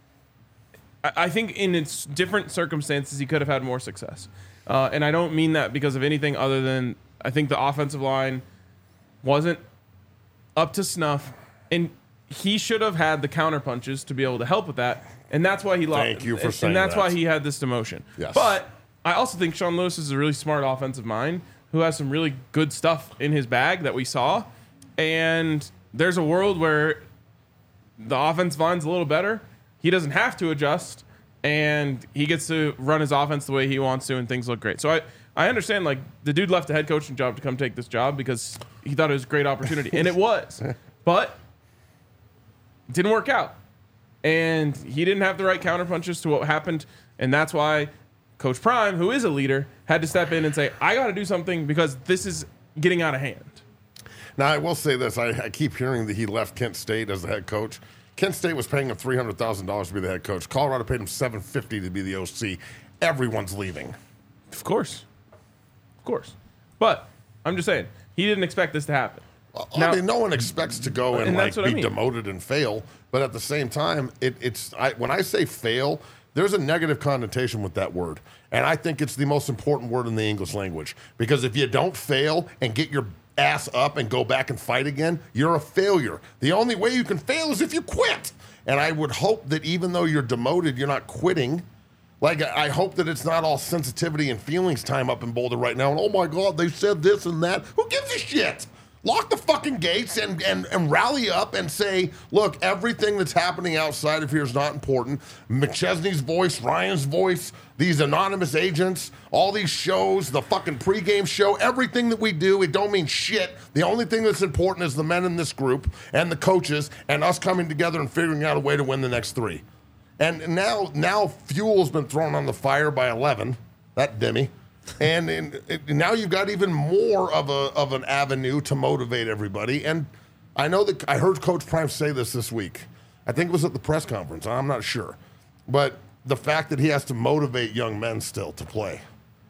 I, I think in its different circumstances he could have had more success, uh, and I don't mean that because of anything other than I think the offensive line wasn't up to snuff, and he should have had the counter punches to be able to help with that, and that's why he lost. Thank you for and, saying and that's that. why he had this demotion. Yes. But I also think Sean Lewis is a really smart offensive mind who has some really good stuff in his bag that we saw, and there's a world where the offensive line's a little better. He doesn't have to adjust, and he gets to run his offense the way he wants to, and things look great. So I, I understand, like, the dude left a head coaching job to come take this job because he thought it was a great opportunity, and it was. But it didn't work out, and he didn't have the right counterpunches to what happened, and that's why Coach Prime, who is a leader, had to step in and say, I got to do something because this is getting out of hand. Now, I will say this. I, I keep hearing that he left Kent State as the head coach. Kent State was paying him three hundred thousand dollars to be the head coach. Colorado paid him seven hundred fifty dollars to be the O C. Everyone's leaving. Of course. Of course. But I'm just saying, he didn't expect this to happen. Well, Now- I mean, no one expects to go and, And like that's what I be mean. demoted and fail. But at the same time, it, it's I, when I say fail, there's a negative connotation with that word. And I think it's the most important word in the English language. Because if you don't fail and get your ass up and go back and fight again, you're a failure. The only way you can fail is if you quit. And I would hope that even though you're demoted, you're not quitting. Like, I hope that it's not all sensitivity and feelings time up in Boulder right now. And, oh, my God, they said this and that. Who gives a shit? Lock the fucking gates and, and, and rally up and say, look, everything that's happening outside of here is not important. McChesney's voice, Ryan's voice, these anonymous agents, all these shows, the fucking pregame show, everything that we do, it don't mean shit. The only thing that's important is the men in this group and the coaches and us coming together and figuring out a way to win the next three. And now, now fuel's been thrown on the fire by eleven, that Demi. And, and, and now you've got even more of a of an avenue to motivate everybody. And I know that I heard Coach Prime say this this week. I think it was at the press conference. I'm not sure. But the fact that he has to motivate young men still to play.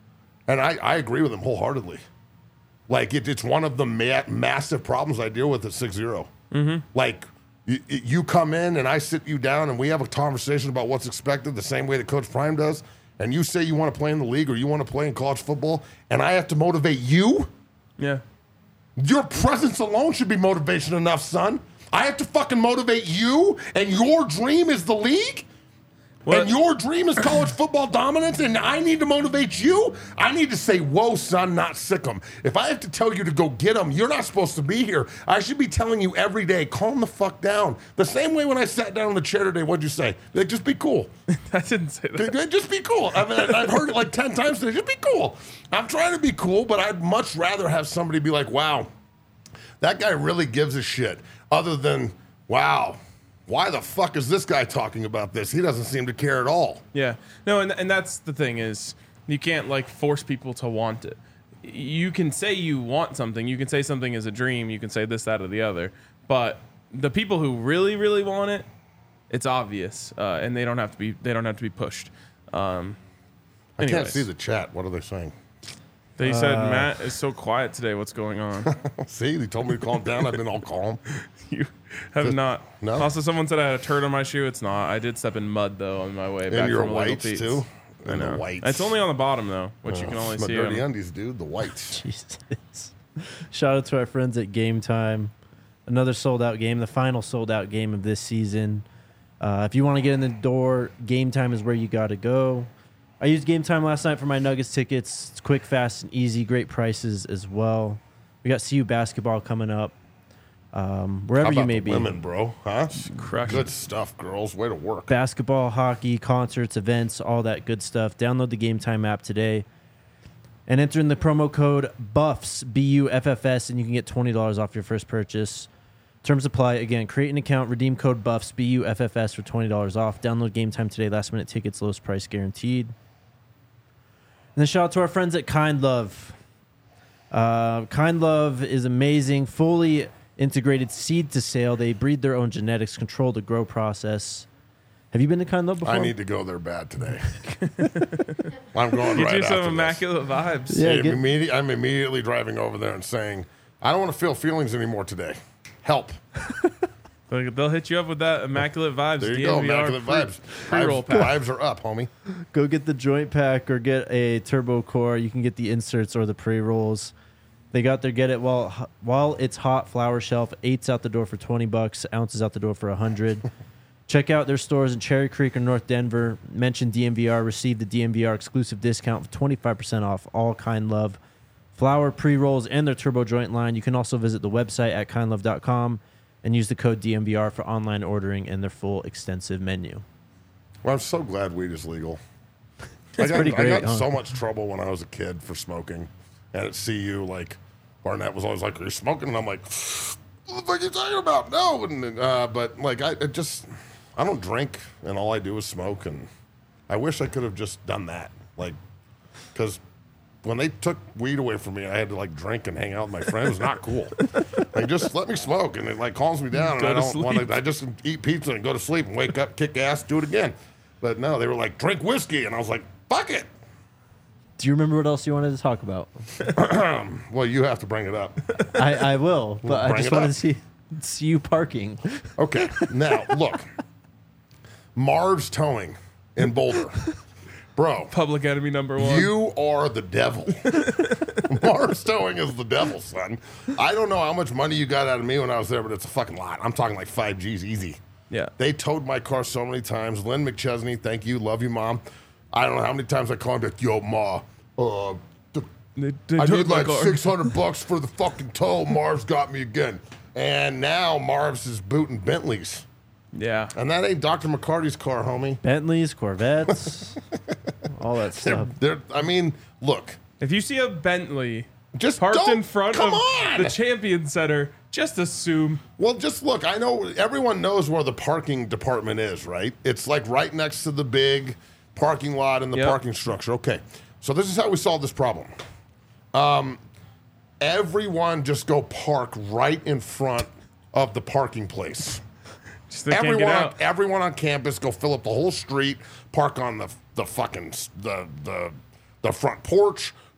And I, I agree with him wholeheartedly. Like, it, it's one of the ma- massive problems I deal with at six zero. Mm-hmm. Like, you, you come in and I sit you down and we have a conversation about what's expected the same way that Coach Prime does, and you say you want to play in the league or you want to play in college football, and I have to motivate you? Yeah. Your presence alone should be motivation enough, son. I have to fucking motivate you, and your dream is the league? What? And your dream is college football dominance, and I need to motivate you? I need to say, whoa, son, not sick 'em. If I have to tell you to go get them, you're not supposed to be here. I should be telling you every day, calm the fuck down. The same way when I sat down in the chair today, what'd you say? Like, just be cool. I didn't say that. Just be cool. I mean, I've heard it like ten times today. Just be cool. I'm trying to be cool, but I'd much rather have somebody be like, wow, that guy really gives a shit, other than, wow, why the fuck is this guy talking about this? He doesn't seem to care at all. Yeah. No, and and that's the thing is you can't like force people to want it. You can say you want something. You can say something is a dream. You can say this, that, or the other. But the people who really, really want it, it's obvious, uh, and they don't have to be. They don't have to be pushed. Um, I can't anyways. see the chat. What are they saying? They said Matt is so quiet today. What's going on? See, they told me to calm down. I've been all calm. You have not. no? Also, someone said I had a turd on my shoe. It's not. I did step in mud though on my way back And your from Little whites Pete's. too. I And know. the whites. It's only on the bottom though, which you can only It's my see. dirty on- undies, dude. The whites. Jesus. Shout out to our friends at Game Time. Another sold out game, the final sold out game of this season. Uh, if you want to get in the door, Game Time is where you got to go. I used Game Time last night for my Nuggets tickets. It's quick, fast, and easy. Great prices as well. We got C U basketball coming up. Um, wherever How you about may the be. women, bro? Huh? Crush Good it. stuff, girls. Way to work. Basketball, hockey, concerts, events, all that good stuff. Download the Game Time app today and enter in the promo code BUFFS, B U F F S, and you can get twenty dollars off your first purchase. Terms apply. Again, create an account, redeem code BUFFS, B U F F S for twenty dollars off. Download Game Time today. Last minute tickets, lowest price guaranteed. And then shout out to our friends at Kind Love. Uh, Kind Love is amazing, fully integrated seed to sale. They breed their own genetics, control the grow process. Have you been to Kind Love before? I need to go there bad today. I'm going Get right you after some this. immaculate vibes. Yeah, I'm, get- immedi- I'm immediately driving over there and saying, I don't want to feel feelings anymore today. Help. They'll they'll hit you up with that immaculate vibes. There you go. D M V R Immaculate pre- vibes. Pre-roll Vibes, pack. vibes are up, homie. Go get the joint pack or get a turbo core. You can get the inserts or the pre-rolls. They got their get it while while it's hot flower shelf. Eights out the door for twenty bucks. Ounces out the door for a hundred. Check out their stores in Cherry Creek or North Denver. Mention D M V R. Receive the D M V R exclusive discount for twenty-five percent off all Kind Love flower pre-rolls and their turbo joint line. You can also visit the website at kind love dot com and use the code D M V R for online ordering and their full extensive menu. Well, I'm so glad weed is legal. That's I got, pretty great, I got huh? so much trouble when I was a kid for smoking. And at C U, like, Barnett was always like, are you smoking? And I'm like, what the fuck are you talking about? No. And, uh, but, like, I it just, I don't drink, and all I do is smoke. And I wish I could have just done that. Like, because when they took weed away from me, I had to, like, drink and hang out with my friends. It was not cool. Like, just let me smoke. And it, like, calms me down. Go and I to don't want sleep. to, I just eat pizza and go to sleep and wake up, kick ass, do it again. But no, they were like, drink whiskey. And I was like, fuck it. Do you remember what else you wanted to talk about? Well, you have to bring it up. I, I will, but I Bring just it wanted up. to see, see you parking. Okay, now look, Marv's Towing in Boulder, bro. Public enemy number one. You are the devil. Marv's Towing is the devil, son. I don't know how much money you got out of me when I was there, but it's a fucking lot. I'm talking like five G's easy. Yeah. They towed my car so many times. Lynn McChesney, thank you, love you, mom. I don't know how many times I called her, like, yo, ma, uh, the, They, they I took need my like car. six hundred bucks for the fucking tow. Marv's got me again. And now Marv's is booting Bentleys. Yeah. And that ain't Doctor McCarty's car, homie. Bentleys, Corvettes, all that They're, stuff. they're, I mean, look, If you see a Bentley just parked don't, in front come of on. the Champion Center, just assume. Well, just look. I know everyone knows where the parking department is, right? It's like right next to the big parking lot and the Yep. parking structure. Okay, so this is how we solve this problem. Um, everyone just go park right in front of the parking place. Just they can't Everyone, get on, out. everyone on campus go fill up the whole street, park on the the fucking s- the the the front porch,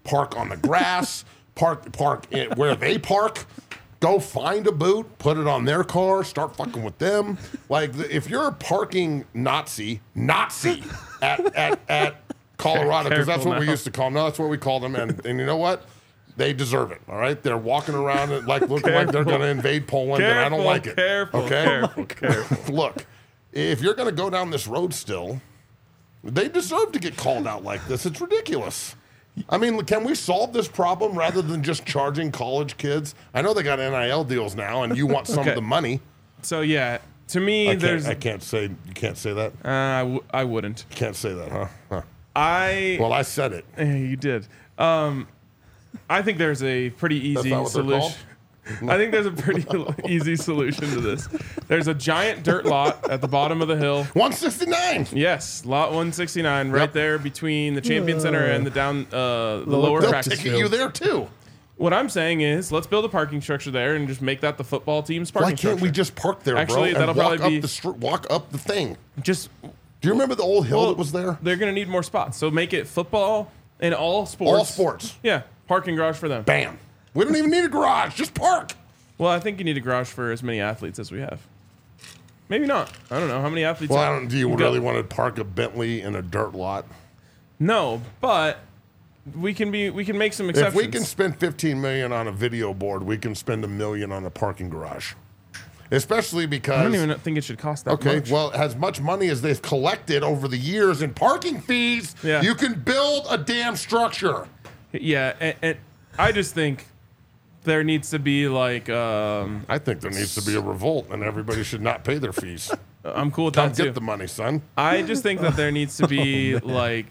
park on the grass, park park in, where they park. Go find a boot, put it on their car, start fucking with them. Like the, if you're a parking Nazi, Nazi at at, at Colorado, because that's what now. we used to call them. No, that's what we called them, and and you know what? They deserve it. All right, they're walking around and like looking like they're going to invade Poland, Careful, and I don't like it. Careful, okay, careful, careful. Look, if you're going to go down this road still, they deserve to get called out like this. It's ridiculous. I mean, can we solve this problem rather than just charging college kids? I know they got N I L deals now, and you want some Okay. of the money. So yeah, to me, I can't, there's I can't say you can't say that. uh, I, w- I wouldn't. You can't say that, huh? huh. I Well, I said it. Yeah, you did. Um, I think there's a pretty easy not what they're solution. I think there's a pretty easy solution to this. There's a giant dirt lot at the bottom of the hill. one sixty-nine. Yes, lot one sixty-nine, right Yep. there between the Champion Center and the down uh, the lower They'll practice ticket field. you there too. What I'm saying is, let's build a parking structure there and just make that the football team's parking Why can't structure. we just park there, Actually, bro, that'll and walk probably be- up the str- walk up the thing? just Do you remember the old hill well, that was there? They're gonna need more spots, so make it football and all sports. All sports. Yeah, parking garage for them. Bam. We don't even need a garage. Just park. Well, I think you need a garage for as many athletes as we have. Maybe not. I don't know how many athletes. Well, I don't. Do you go- really want to park a Bentley in a dirt lot? No, but we can be. We can make some If exceptions. we can spend fifteen million on a video board, we can spend a million on a parking garage. Especially because I don't even think it should cost that okay, much. well, as much money as they've collected over the years in parking fees, Yeah. you can build a damn structure. Yeah, and, and I just think there needs to be like. Um, I think there needs to be a revolt, and everybody should not pay their fees. I'm cool with Come that too. get the money, son. I just think that there needs to be like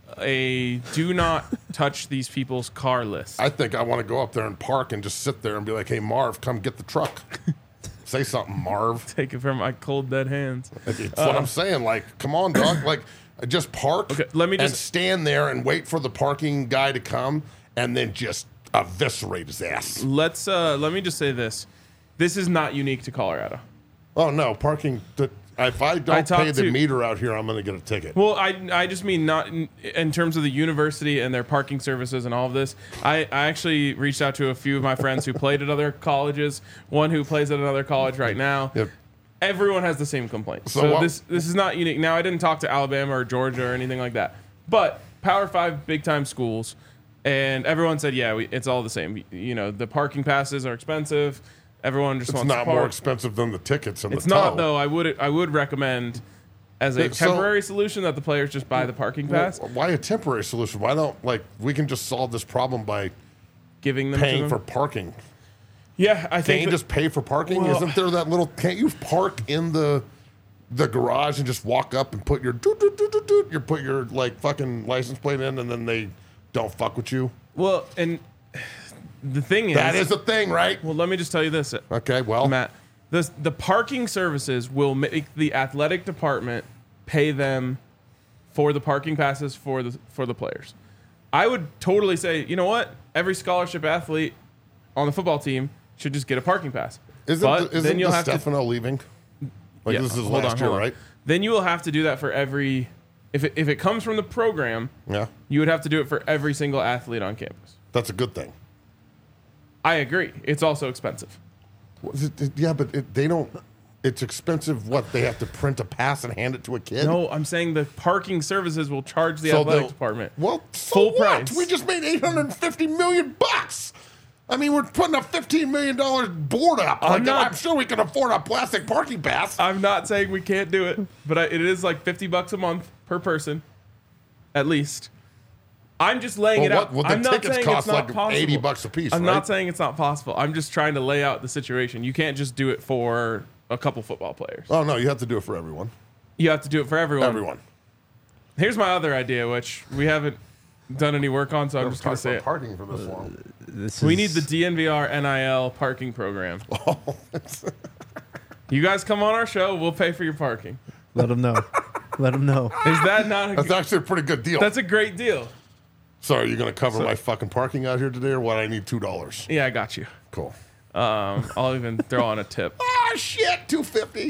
a do not touch these people's car list. I think I want to go up there and park and just sit there and be like, "Hey, Marv, come get the truck." Say something, Marv. Take it from my cold dead hands. That's what I'm saying. Like, come on, dog. Like, just park. Okay, let me and just- stand there and wait for the parking guy to come, and then just eviscerate his ass. Let's uh let me just say this. This is not unique to Colorado. Oh no, parking. Th- if I I don't talked pay the to- meter out here, I'm going to get a ticket. Well, I, I just mean not in, in terms of the university and their parking services and all of this. I, I actually reached out to a few of my friends who played at other colleges, one who plays at another college right now. Yep. Everyone has the same complaint. So So, what- this this is not unique. Now, I didn't talk to Alabama or Georgia or anything like that. But Power Five big time schools, and everyone said, yeah, we, it's all the same. You know, the parking passes are expensive. Everyone just It's wants not to park. more expensive than the tickets and It's the not tow. though. I would I would recommend as a Yeah, so- temporary solution that the players just buy the parking pass, Well, why a temporary solution? Why don't like we can just solve this problem by giving them to paying them. for parking? Yeah, I Can't think you that- just pay for parking? Well- Isn't there that little? Can't you park in the the garage and just walk up and put your doot, doot, doot, doot, doot, you put your like fucking license plate in, and then they don't fuck with you? well, and the thing is, That is a thing, right? well, let me just tell you this, Okay, well, Matt. The the parking services will make the athletic department pay them for the parking passes for the for the players. I would totally say, you know what? Every scholarship athlete on the football team should just get a parking pass. isn't but the, isn't then you'll have to Stefano leaving? Like Yeah, this is hold last on, year, hold on. right? Then you will have to do that for every. If it, if it comes from the program, Yeah, you would have to do it for every single athlete on campus. that's a good thing. I agree. It's also expensive. What is it- Yeah, but it, they don't. It's expensive. What they have to print a pass and hand it to a kid? No, I'm saying the parking services will charge the So athletic they'll- department. Well, so Full what? price. We just made eight hundred fifty million bucks. I mean, we're putting a fifteen million dollars board up. I'm Like, I'm, not- sure we can afford a plastic parking pass. I'm not saying we can't do it, but I, it is like fifty bucks a month per person, at least. I'm just laying Well, it what- out. well, the I'm not tickets saying cost it's not like possible. eighty bucks a piece, I'm right? not saying it's not possible. I'm just trying to lay out the situation. You can't just do it for a couple football players. Oh no, you have to do it for everyone. You have to do it for everyone. Everyone. Here's my other idea, which we haven't done any work on, so I'm just going to say it. parking for this long. This We is- need the D N V R N I L parking program. You guys come on our show, we'll pay for your parking. Let them know. Let them know. Is that not a That's actually a pretty good deal. That's a great deal. So are you going to cover my fucking parking out here today, or what? I need two dollars. Yeah, I got you. Cool. Um, I'll even throw on a tip. Ah shit, two fifty.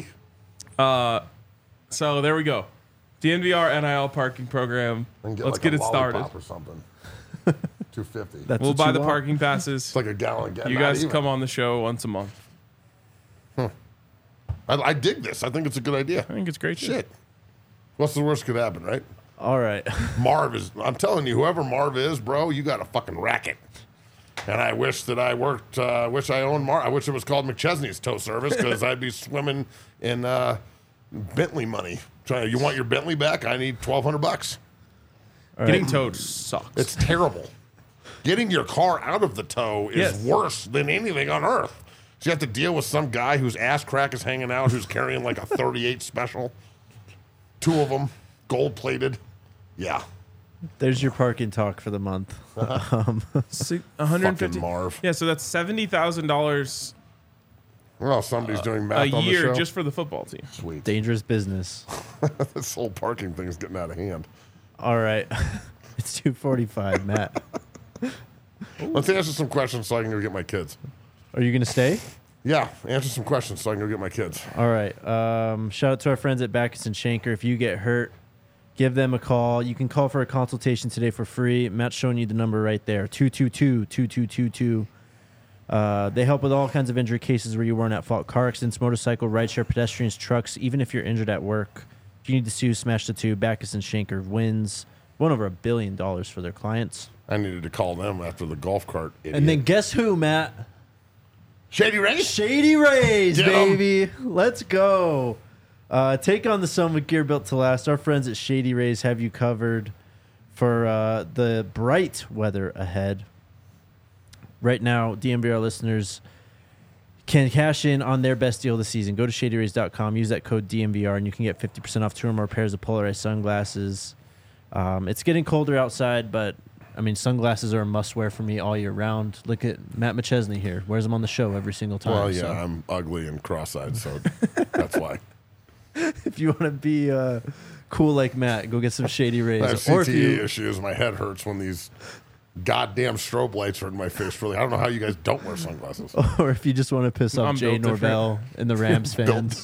So there we go. D N V R N I L parking program. Let's get it started. Or something. two fifty. That's We'll what buy you the want? parking passes. It's like a gallon. Ga- You not guys even. come on the show once a month. I, I dig this. I think it's a good idea. I think it's great. Shit. What's the worst could happen, right? All right. Marv is, I'm telling you, whoever Marv is, bro, you got a fucking racket. And I wish that I worked, I uh, wish I owned Marv. I wish it was called McChesney's Tow Service because I'd be swimming in uh, Bentley money. Trying, you want your Bentley back? I need twelve hundred bucks. Getting towed sucks. It's terrible. Getting your car out of the tow is Yes. worse than anything on earth. So you have to deal with some guy whose ass crack is hanging out, who's carrying like a thirty-eight special. Two of them, gold plated. Yeah. There's your parking talk for the month. Um, Si- one hundred fifty. Fucking Marv. Yeah, so that's seventy thousand dollars Well, somebody's doing a math on the year show. just for the football team. Sweet. dangerous business. This whole parking thing is getting out of hand. All right. It's two forty-five, Matt. Let's answer some questions so I can go get my kids. Are you going to stay? Yeah, answer some questions so I can go get my kids. All right. Um, shout out to our friends at Backus and Shanker. If you get hurt, give them a call. You can call for a consultation today for free. Matt's showing you the number right there, two two two, two two two two. Uh, they help with all kinds of injury cases where you weren't at fault. Car accidents, motorcycle, rideshare, pedestrians, trucks, even if you're injured at work. If you need to sue, smash the two. Backus and Shanker wins. Won over a billion dollars for their clients. I needed to call them after the golf cart. Idiot. And then guess who, Matt? Shady Race? Shady Rays, Get 'em. baby. Let's go. Uh, take on the sun with gear built to last. Our friends at Shady Rays have you covered for uh, the bright weather ahead. Right now, D M V R listeners can cash in on their best deal of the season. Go to shady rays dot com, use that code D M V R, and you can get fifty percent off two or more pairs of polarized sunglasses. Um, it's getting colder outside, but I mean, sunglasses are a must-wear for me all year round. Look at Matt McChesney here. Wears them on the show every single time. Well, yeah, so. I'm ugly and cross-eyed, so that's why. If you want to be uh, cool like Matt, go get some Shady Rays. I have Or C if T E you, issues. My head hurts when these goddamn strobe lights are in my face. Really, I don't know how you guys don't wear sunglasses. or if you just want to piss off I'm Jay built Norvell and the Rams fans,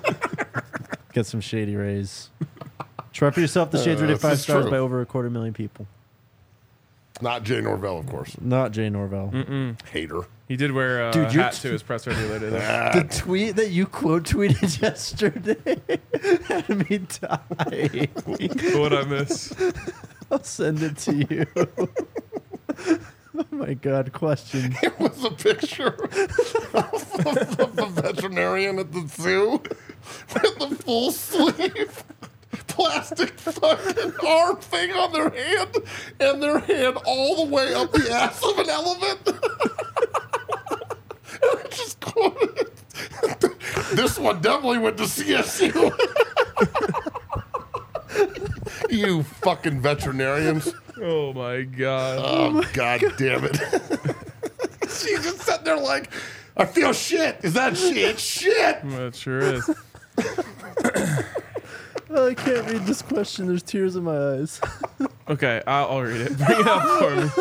get some Shady Rays. Try for yourself. The Shades Uh, rated this five is stars true. by over a quarter million people. Not Jay Norvell, of course. Not Jay Norvell. Hater. He did wear a Dude, you're hat t- to his presser the other day. The tweet that you quote tweeted yesterday had me die. What I miss? I'll send it to you. Oh my God! Question. It was a picture of the, of the veterinarian at the zoo with the full sleeve plastic fucking arm thing on their hand and their hand all the way up the ass of an elephant. And I just quoted, this one definitely went to C S U. You fucking veterinarians. Oh my god. Oh, God damn it. She's just sitting there like, I feel shit. Is that shit? Shit. That sure is. Oh, I can't read this question. There's tears in my eyes. Okay, I'll, I'll read it. Bring it up for me.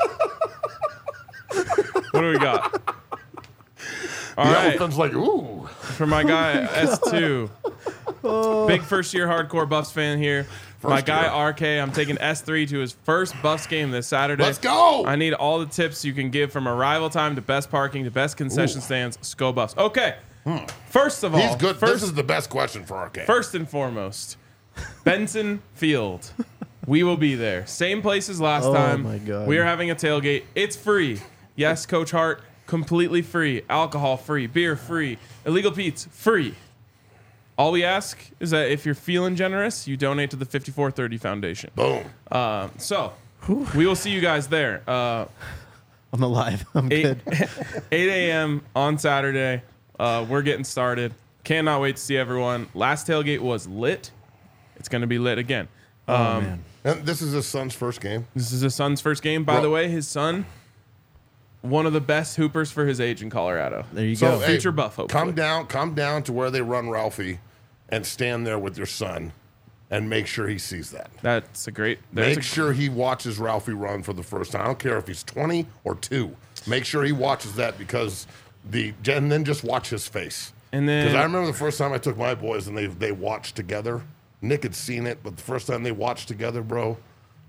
What do we got? All The right, elephant's like, ooh. for my guy S two. Big first year hardcore Buffs fan here. my First guy year. R K, I'm taking S three to his first Buffs game this Saturday. Let's go. I need all the tips you can give from arrival time to best parking to best concession stands. Go Buffs. Okay. First of all, He's good. First, This is the best question for R K. First and foremost, Benson Field. We will be there. Same place as last Oh time. my God. We are having a tailgate. It's free. Yes, Coach Hart, completely free. Alcohol free. Beer free. Illegal Pete's free. All we ask is that if you're feeling generous, you donate to the fifty-four thirty Foundation. Boom. Uh, so, we will see you guys there. Uh, I'm alive. I'm eight good. eight a.m. on Saturday. Uh, we're getting started. Cannot wait to see everyone. Last tailgate was lit. It's going to be lit again. Oh Um, man. And this is his son's first game. This is his son's first game. By Bro. the way, his son, one of the best hoopers for his age in Colorado. There you So, go. hey, future buff, hopefully. Come down, come down to where they run Ralphie and stand there with your son and make sure he sees that. That's a great. That's Make a, sure he watches Ralphie run for the first time. I don't care if he's twenty or two. Make sure he watches that because the and then just watch his face. And then- because I remember the first time I took my boys and they they watched together. Nick had seen it, but the first time they watched together, bro,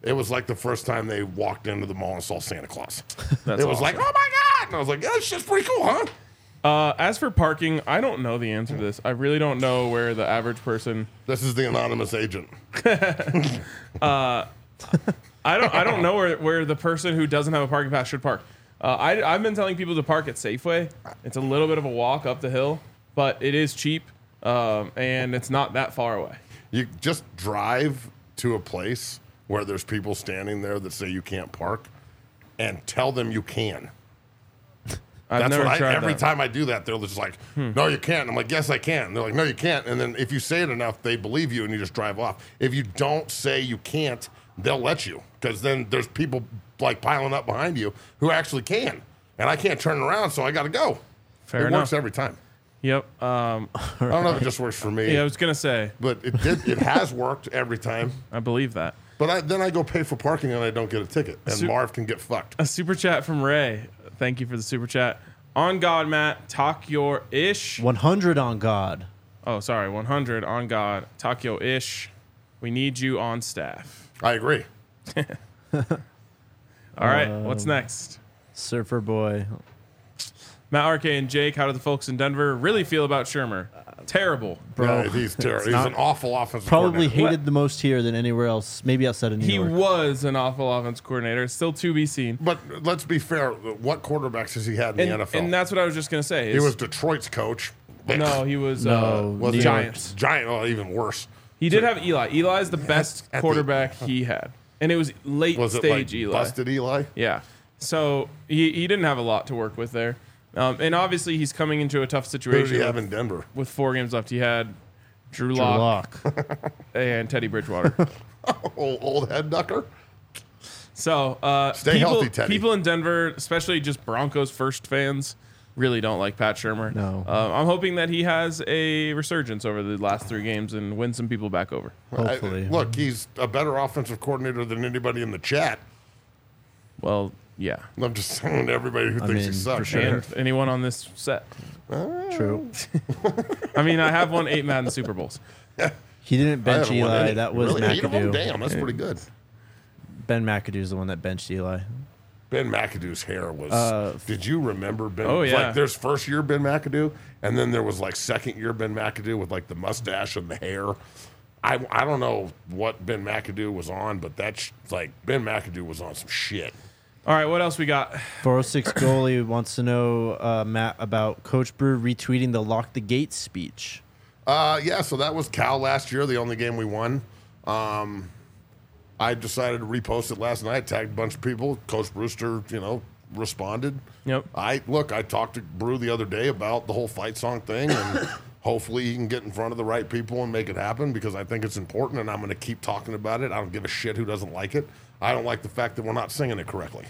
It was like the first time they walked into the mall and saw Santa Claus. That's it was awesome. like, oh my God. And I was like, yeah, this shit's pretty cool, huh? Uh, as for parking, I don't know the answer to this. I really don't know where the average person. This is the anonymous agent. uh, I don't. I don't know where, where the person who doesn't have a parking pass should park. Uh, I, I've been telling people to park at Safeway. It's a little bit of a walk up the hill, but it is cheap, um, and it's not that far away. You just drive to a place where there's people standing there that say you can't park, and tell them you can. I've That's never what I, tried every that. time I do that, they're just like, Hmm. no, you can't. I'm like, yes, I can. And they're like, no, you can't. And then if you say it enough, they believe you and you just drive off. If you don't say you can't, they'll let you, because then there's people like piling up behind you who actually can. And I can't turn around, so I got to go. Fair it enough. works every time. Yep. Um, I don't know if it just works for me. yeah, I was gonna say, but it did. It has worked every time. I believe that. But I, then I go pay for parking and I don't get a ticket, and Su- Marv can get fucked. A super chat from Ray. Thank you for the super chat. On God, Matt, talk your ish. one hundred on God. Oh, sorry, one hundred on God. Talk your ish. We need you on staff. I agree. All right, Um, what's next? Surfer Boy. Matt, R K, and Jake, how do the folks in Denver really feel about Shermer? Terrible. Bro, Yeah, he's terrible. He's not- an awful offensive Probably coordinator. hated the most here than anywhere else, maybe outside of New He York. was an awful offense coordinator. Still to be seen. But let's be fair. What quarterbacks has he had in And, the N F L? and that's what I was just gonna say. he is- was Detroit's coach. no, he was No, uh, was New he? York. Giants. Giant. Oh, even worse. He did have Eli. Eli's the best at the- quarterback he had, and it was late Was it stage like Eli. busted Eli? Yeah. So he, he didn't have a lot to work with there. Um, and obviously, he's coming into a tough Who did situation he have with, in Denver? with four games left. He had Drew Drew Lock Lock. and Teddy Bridgewater. old, old head ducker. So uh, Stay people, healthy, Teddy. people in Denver, especially just Broncos first fans, really don't like Pat Shurmur. No. Uh, I'm hoping that he has a resurgence over the last three games and wins some people back over. Hopefully. I- look, he's a better offensive coordinator than anybody in the chat. Well, yeah. I'm just saying to everybody who I thinks he mean, sucks. for sure. And anyone on this set. True. I mean, I have won eight Madden Super Bowls. He didn't I bench haven't won Eli. any. That was really? Eight of them? McAdoo. Damn, that's pretty good. Ben McAdoo's the one that benched Eli. Ben McAdoo's hair was. Uh, did you remember Ben? Oh, yeah. Like there's first year Ben McAdoo, and then there was like second year Ben McAdoo with like the mustache and the hair. I, I don't know what Ben McAdoo was on, but that's like Ben McAdoo was on some shit. All right, what else we got? four oh six goalie wants to know, uh, Matt, about Coach Brew retweeting the Lock the Gate speech. Uh, yeah, so that was Cal last year, the only game we won. Um, I decided to repost it last night, tagged a bunch of people. Coach Brewster, you know, responded. Yep. I look, I talked to Brew the other day about the whole fight song thing, and hopefully he can get in front of the right people and make it happen, because I think it's important, and I'm going to keep talking about it. I don't give a shit who doesn't like it. I don't like the fact that we're not singing it correctly.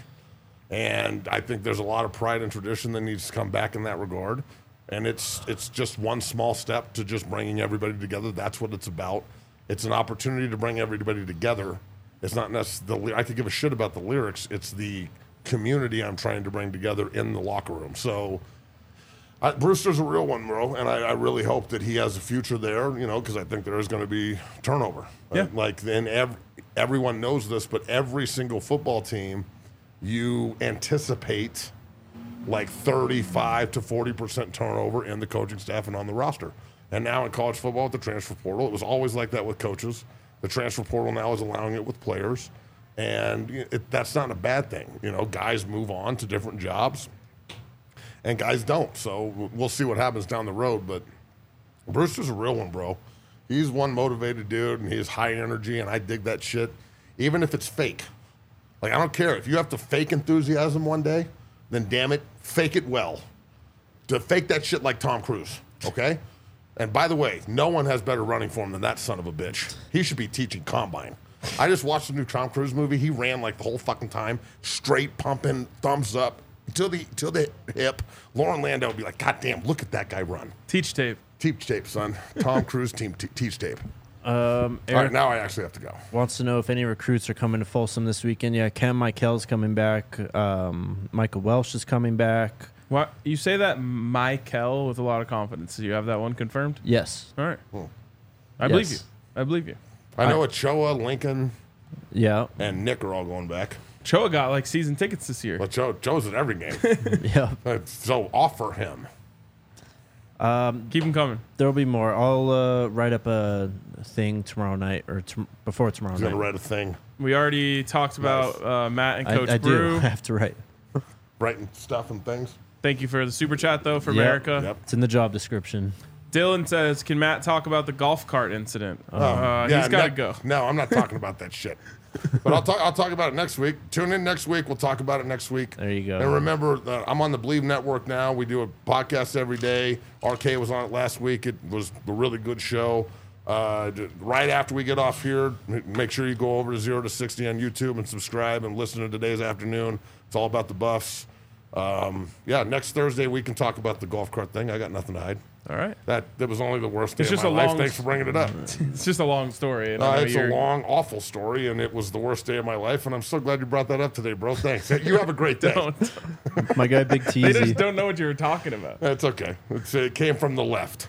And I think there's a lot of pride and tradition that needs to come back in that regard. And it's it's just one small step to just bringing everybody together. That's what it's about. It's an opportunity to bring everybody together. It's not necessarily, I could give a shit about the lyrics. It's the community I'm trying to bring together in the locker room. So I, Brewster's a real one, bro. And I, I really hope that he has a future there, you know, because I think there is going to be turnover. Yeah. Uh, like, then ev- everyone knows this, but every single football team, you anticipate like thirty-five to forty percent turnover in the coaching staff and on the roster. And now in college football with the transfer portal, it was always like that with coaches. The transfer portal now is allowing it with players. And it, that's not a bad thing. You know, guys move on to different jobs and guys don't. So we'll see what happens down the road. But Brewster's a real one, bro. He's one motivated dude, and he's high energy, and I dig that shit, even if it's fake. Like, I don't care. If you have to fake enthusiasm one day, then damn it, fake it well. To fake that shit like Tom Cruise, okay? And by the way, no one has better running form than that son of a bitch. He should be teaching combine. I just watched the new Tom Cruise movie. He ran like the whole fucking time, straight pumping, thumbs up, till the till the hip. Lauren Landau would be like, God damn, look at that guy run. Teach tape. Teach tape, son. Tom Cruise team t- teach tape. Um, All right, Eric now I actually have to go. wants to know if any recruits are coming to Folsom this weekend. Yeah, Cam Michael's coming back. Um, Michael Welsh is coming back. What you say that Michael with a lot of confidence? Do you have that one confirmed? Yes. All right. Hmm. I believe you. Yes. I believe you. I know Ochoa, Lincoln. Yeah. and Nick are all going back. Choa got like season tickets this year. But Joe, Joe's at every game. Yeah. So offer him. Keep them coming. There'll be more. I'll uh, write up a thing tomorrow night or t- before tomorrow He's night. going to write a thing. We already talked about uh, Matt and I, Coach I Brew. do. I have to write. Writing stuff and things. Thank you for the super chat though for Yep. America. Yep. It's in the job description. Dylan says, "Can Matt talk about the golf cart incident?" Oh, uh, yeah, he's got to ne- go. No, I'm not talking about that shit. But I'll talk. I'll talk about it next week. Tune in next week. We'll talk about it next week. There you go. And remember, that I'm on the Believe Network now. We do a podcast every day. R K was on it last week. It was a really good show. Uh, d- right after we get off here, m- make sure you go over to zero to sixty on YouTube and subscribe and listen to today's afternoon. It's all about the Buffs. Um, yeah, next Thursday we can talk about the golf cart thing. I got nothing to hide. All right. That that was only the worst day It's of just my a life. long- Thanks for bringing it up. It's just a long story. And I Uh, know it's a you're- long, awful story, and it was the worst day of my life. And I'm so glad you brought that up today, bro. Thanks. You have a great day. Don't- My guy, Big they just Teasy. don't know what you were talking about. That's okay. It's, it came from the left.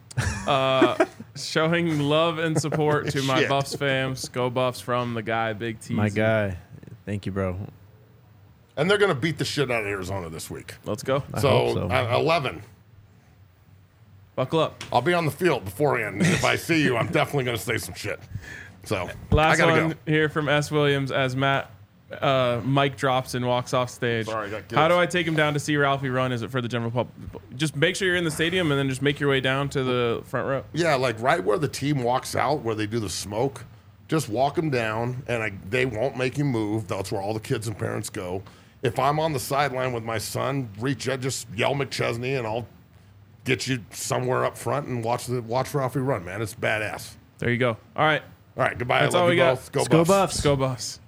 Showing love and support to my Shit. Buffs fams. Go Buffs from the guy, Big T. My guy. Thank you, bro. And they're going to beat the shit out of Arizona this week. Let's go. I So, hope so. uh, eleven. Buckle up. I'll be on the field beforehand. If I see you, I'm definitely going to say some shit. So, I Last got to one go. here from S. Williams as Matt uh, mic drops and walks off stage. Sorry, I got How guilt. do I take him down to see Ralphie run? Is it for the general public? Just make sure you're in the stadium and then just make your way down to the front row. Yeah, like right where the team walks out, where they do the smoke, just walk them down, and I, they won't make you move. That's where all the kids and parents go. If I'm on the sideline with my son, reach out, just yell McChesney, and I'll get you somewhere up front and watch the watch Ralphie run, man. It's badass. There you go. All right. All right, goodbye. That's I love all you we got. both. Go Let's go Buffs. Buffs. Go Buffs.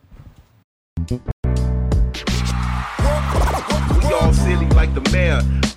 We all silly like the mayor.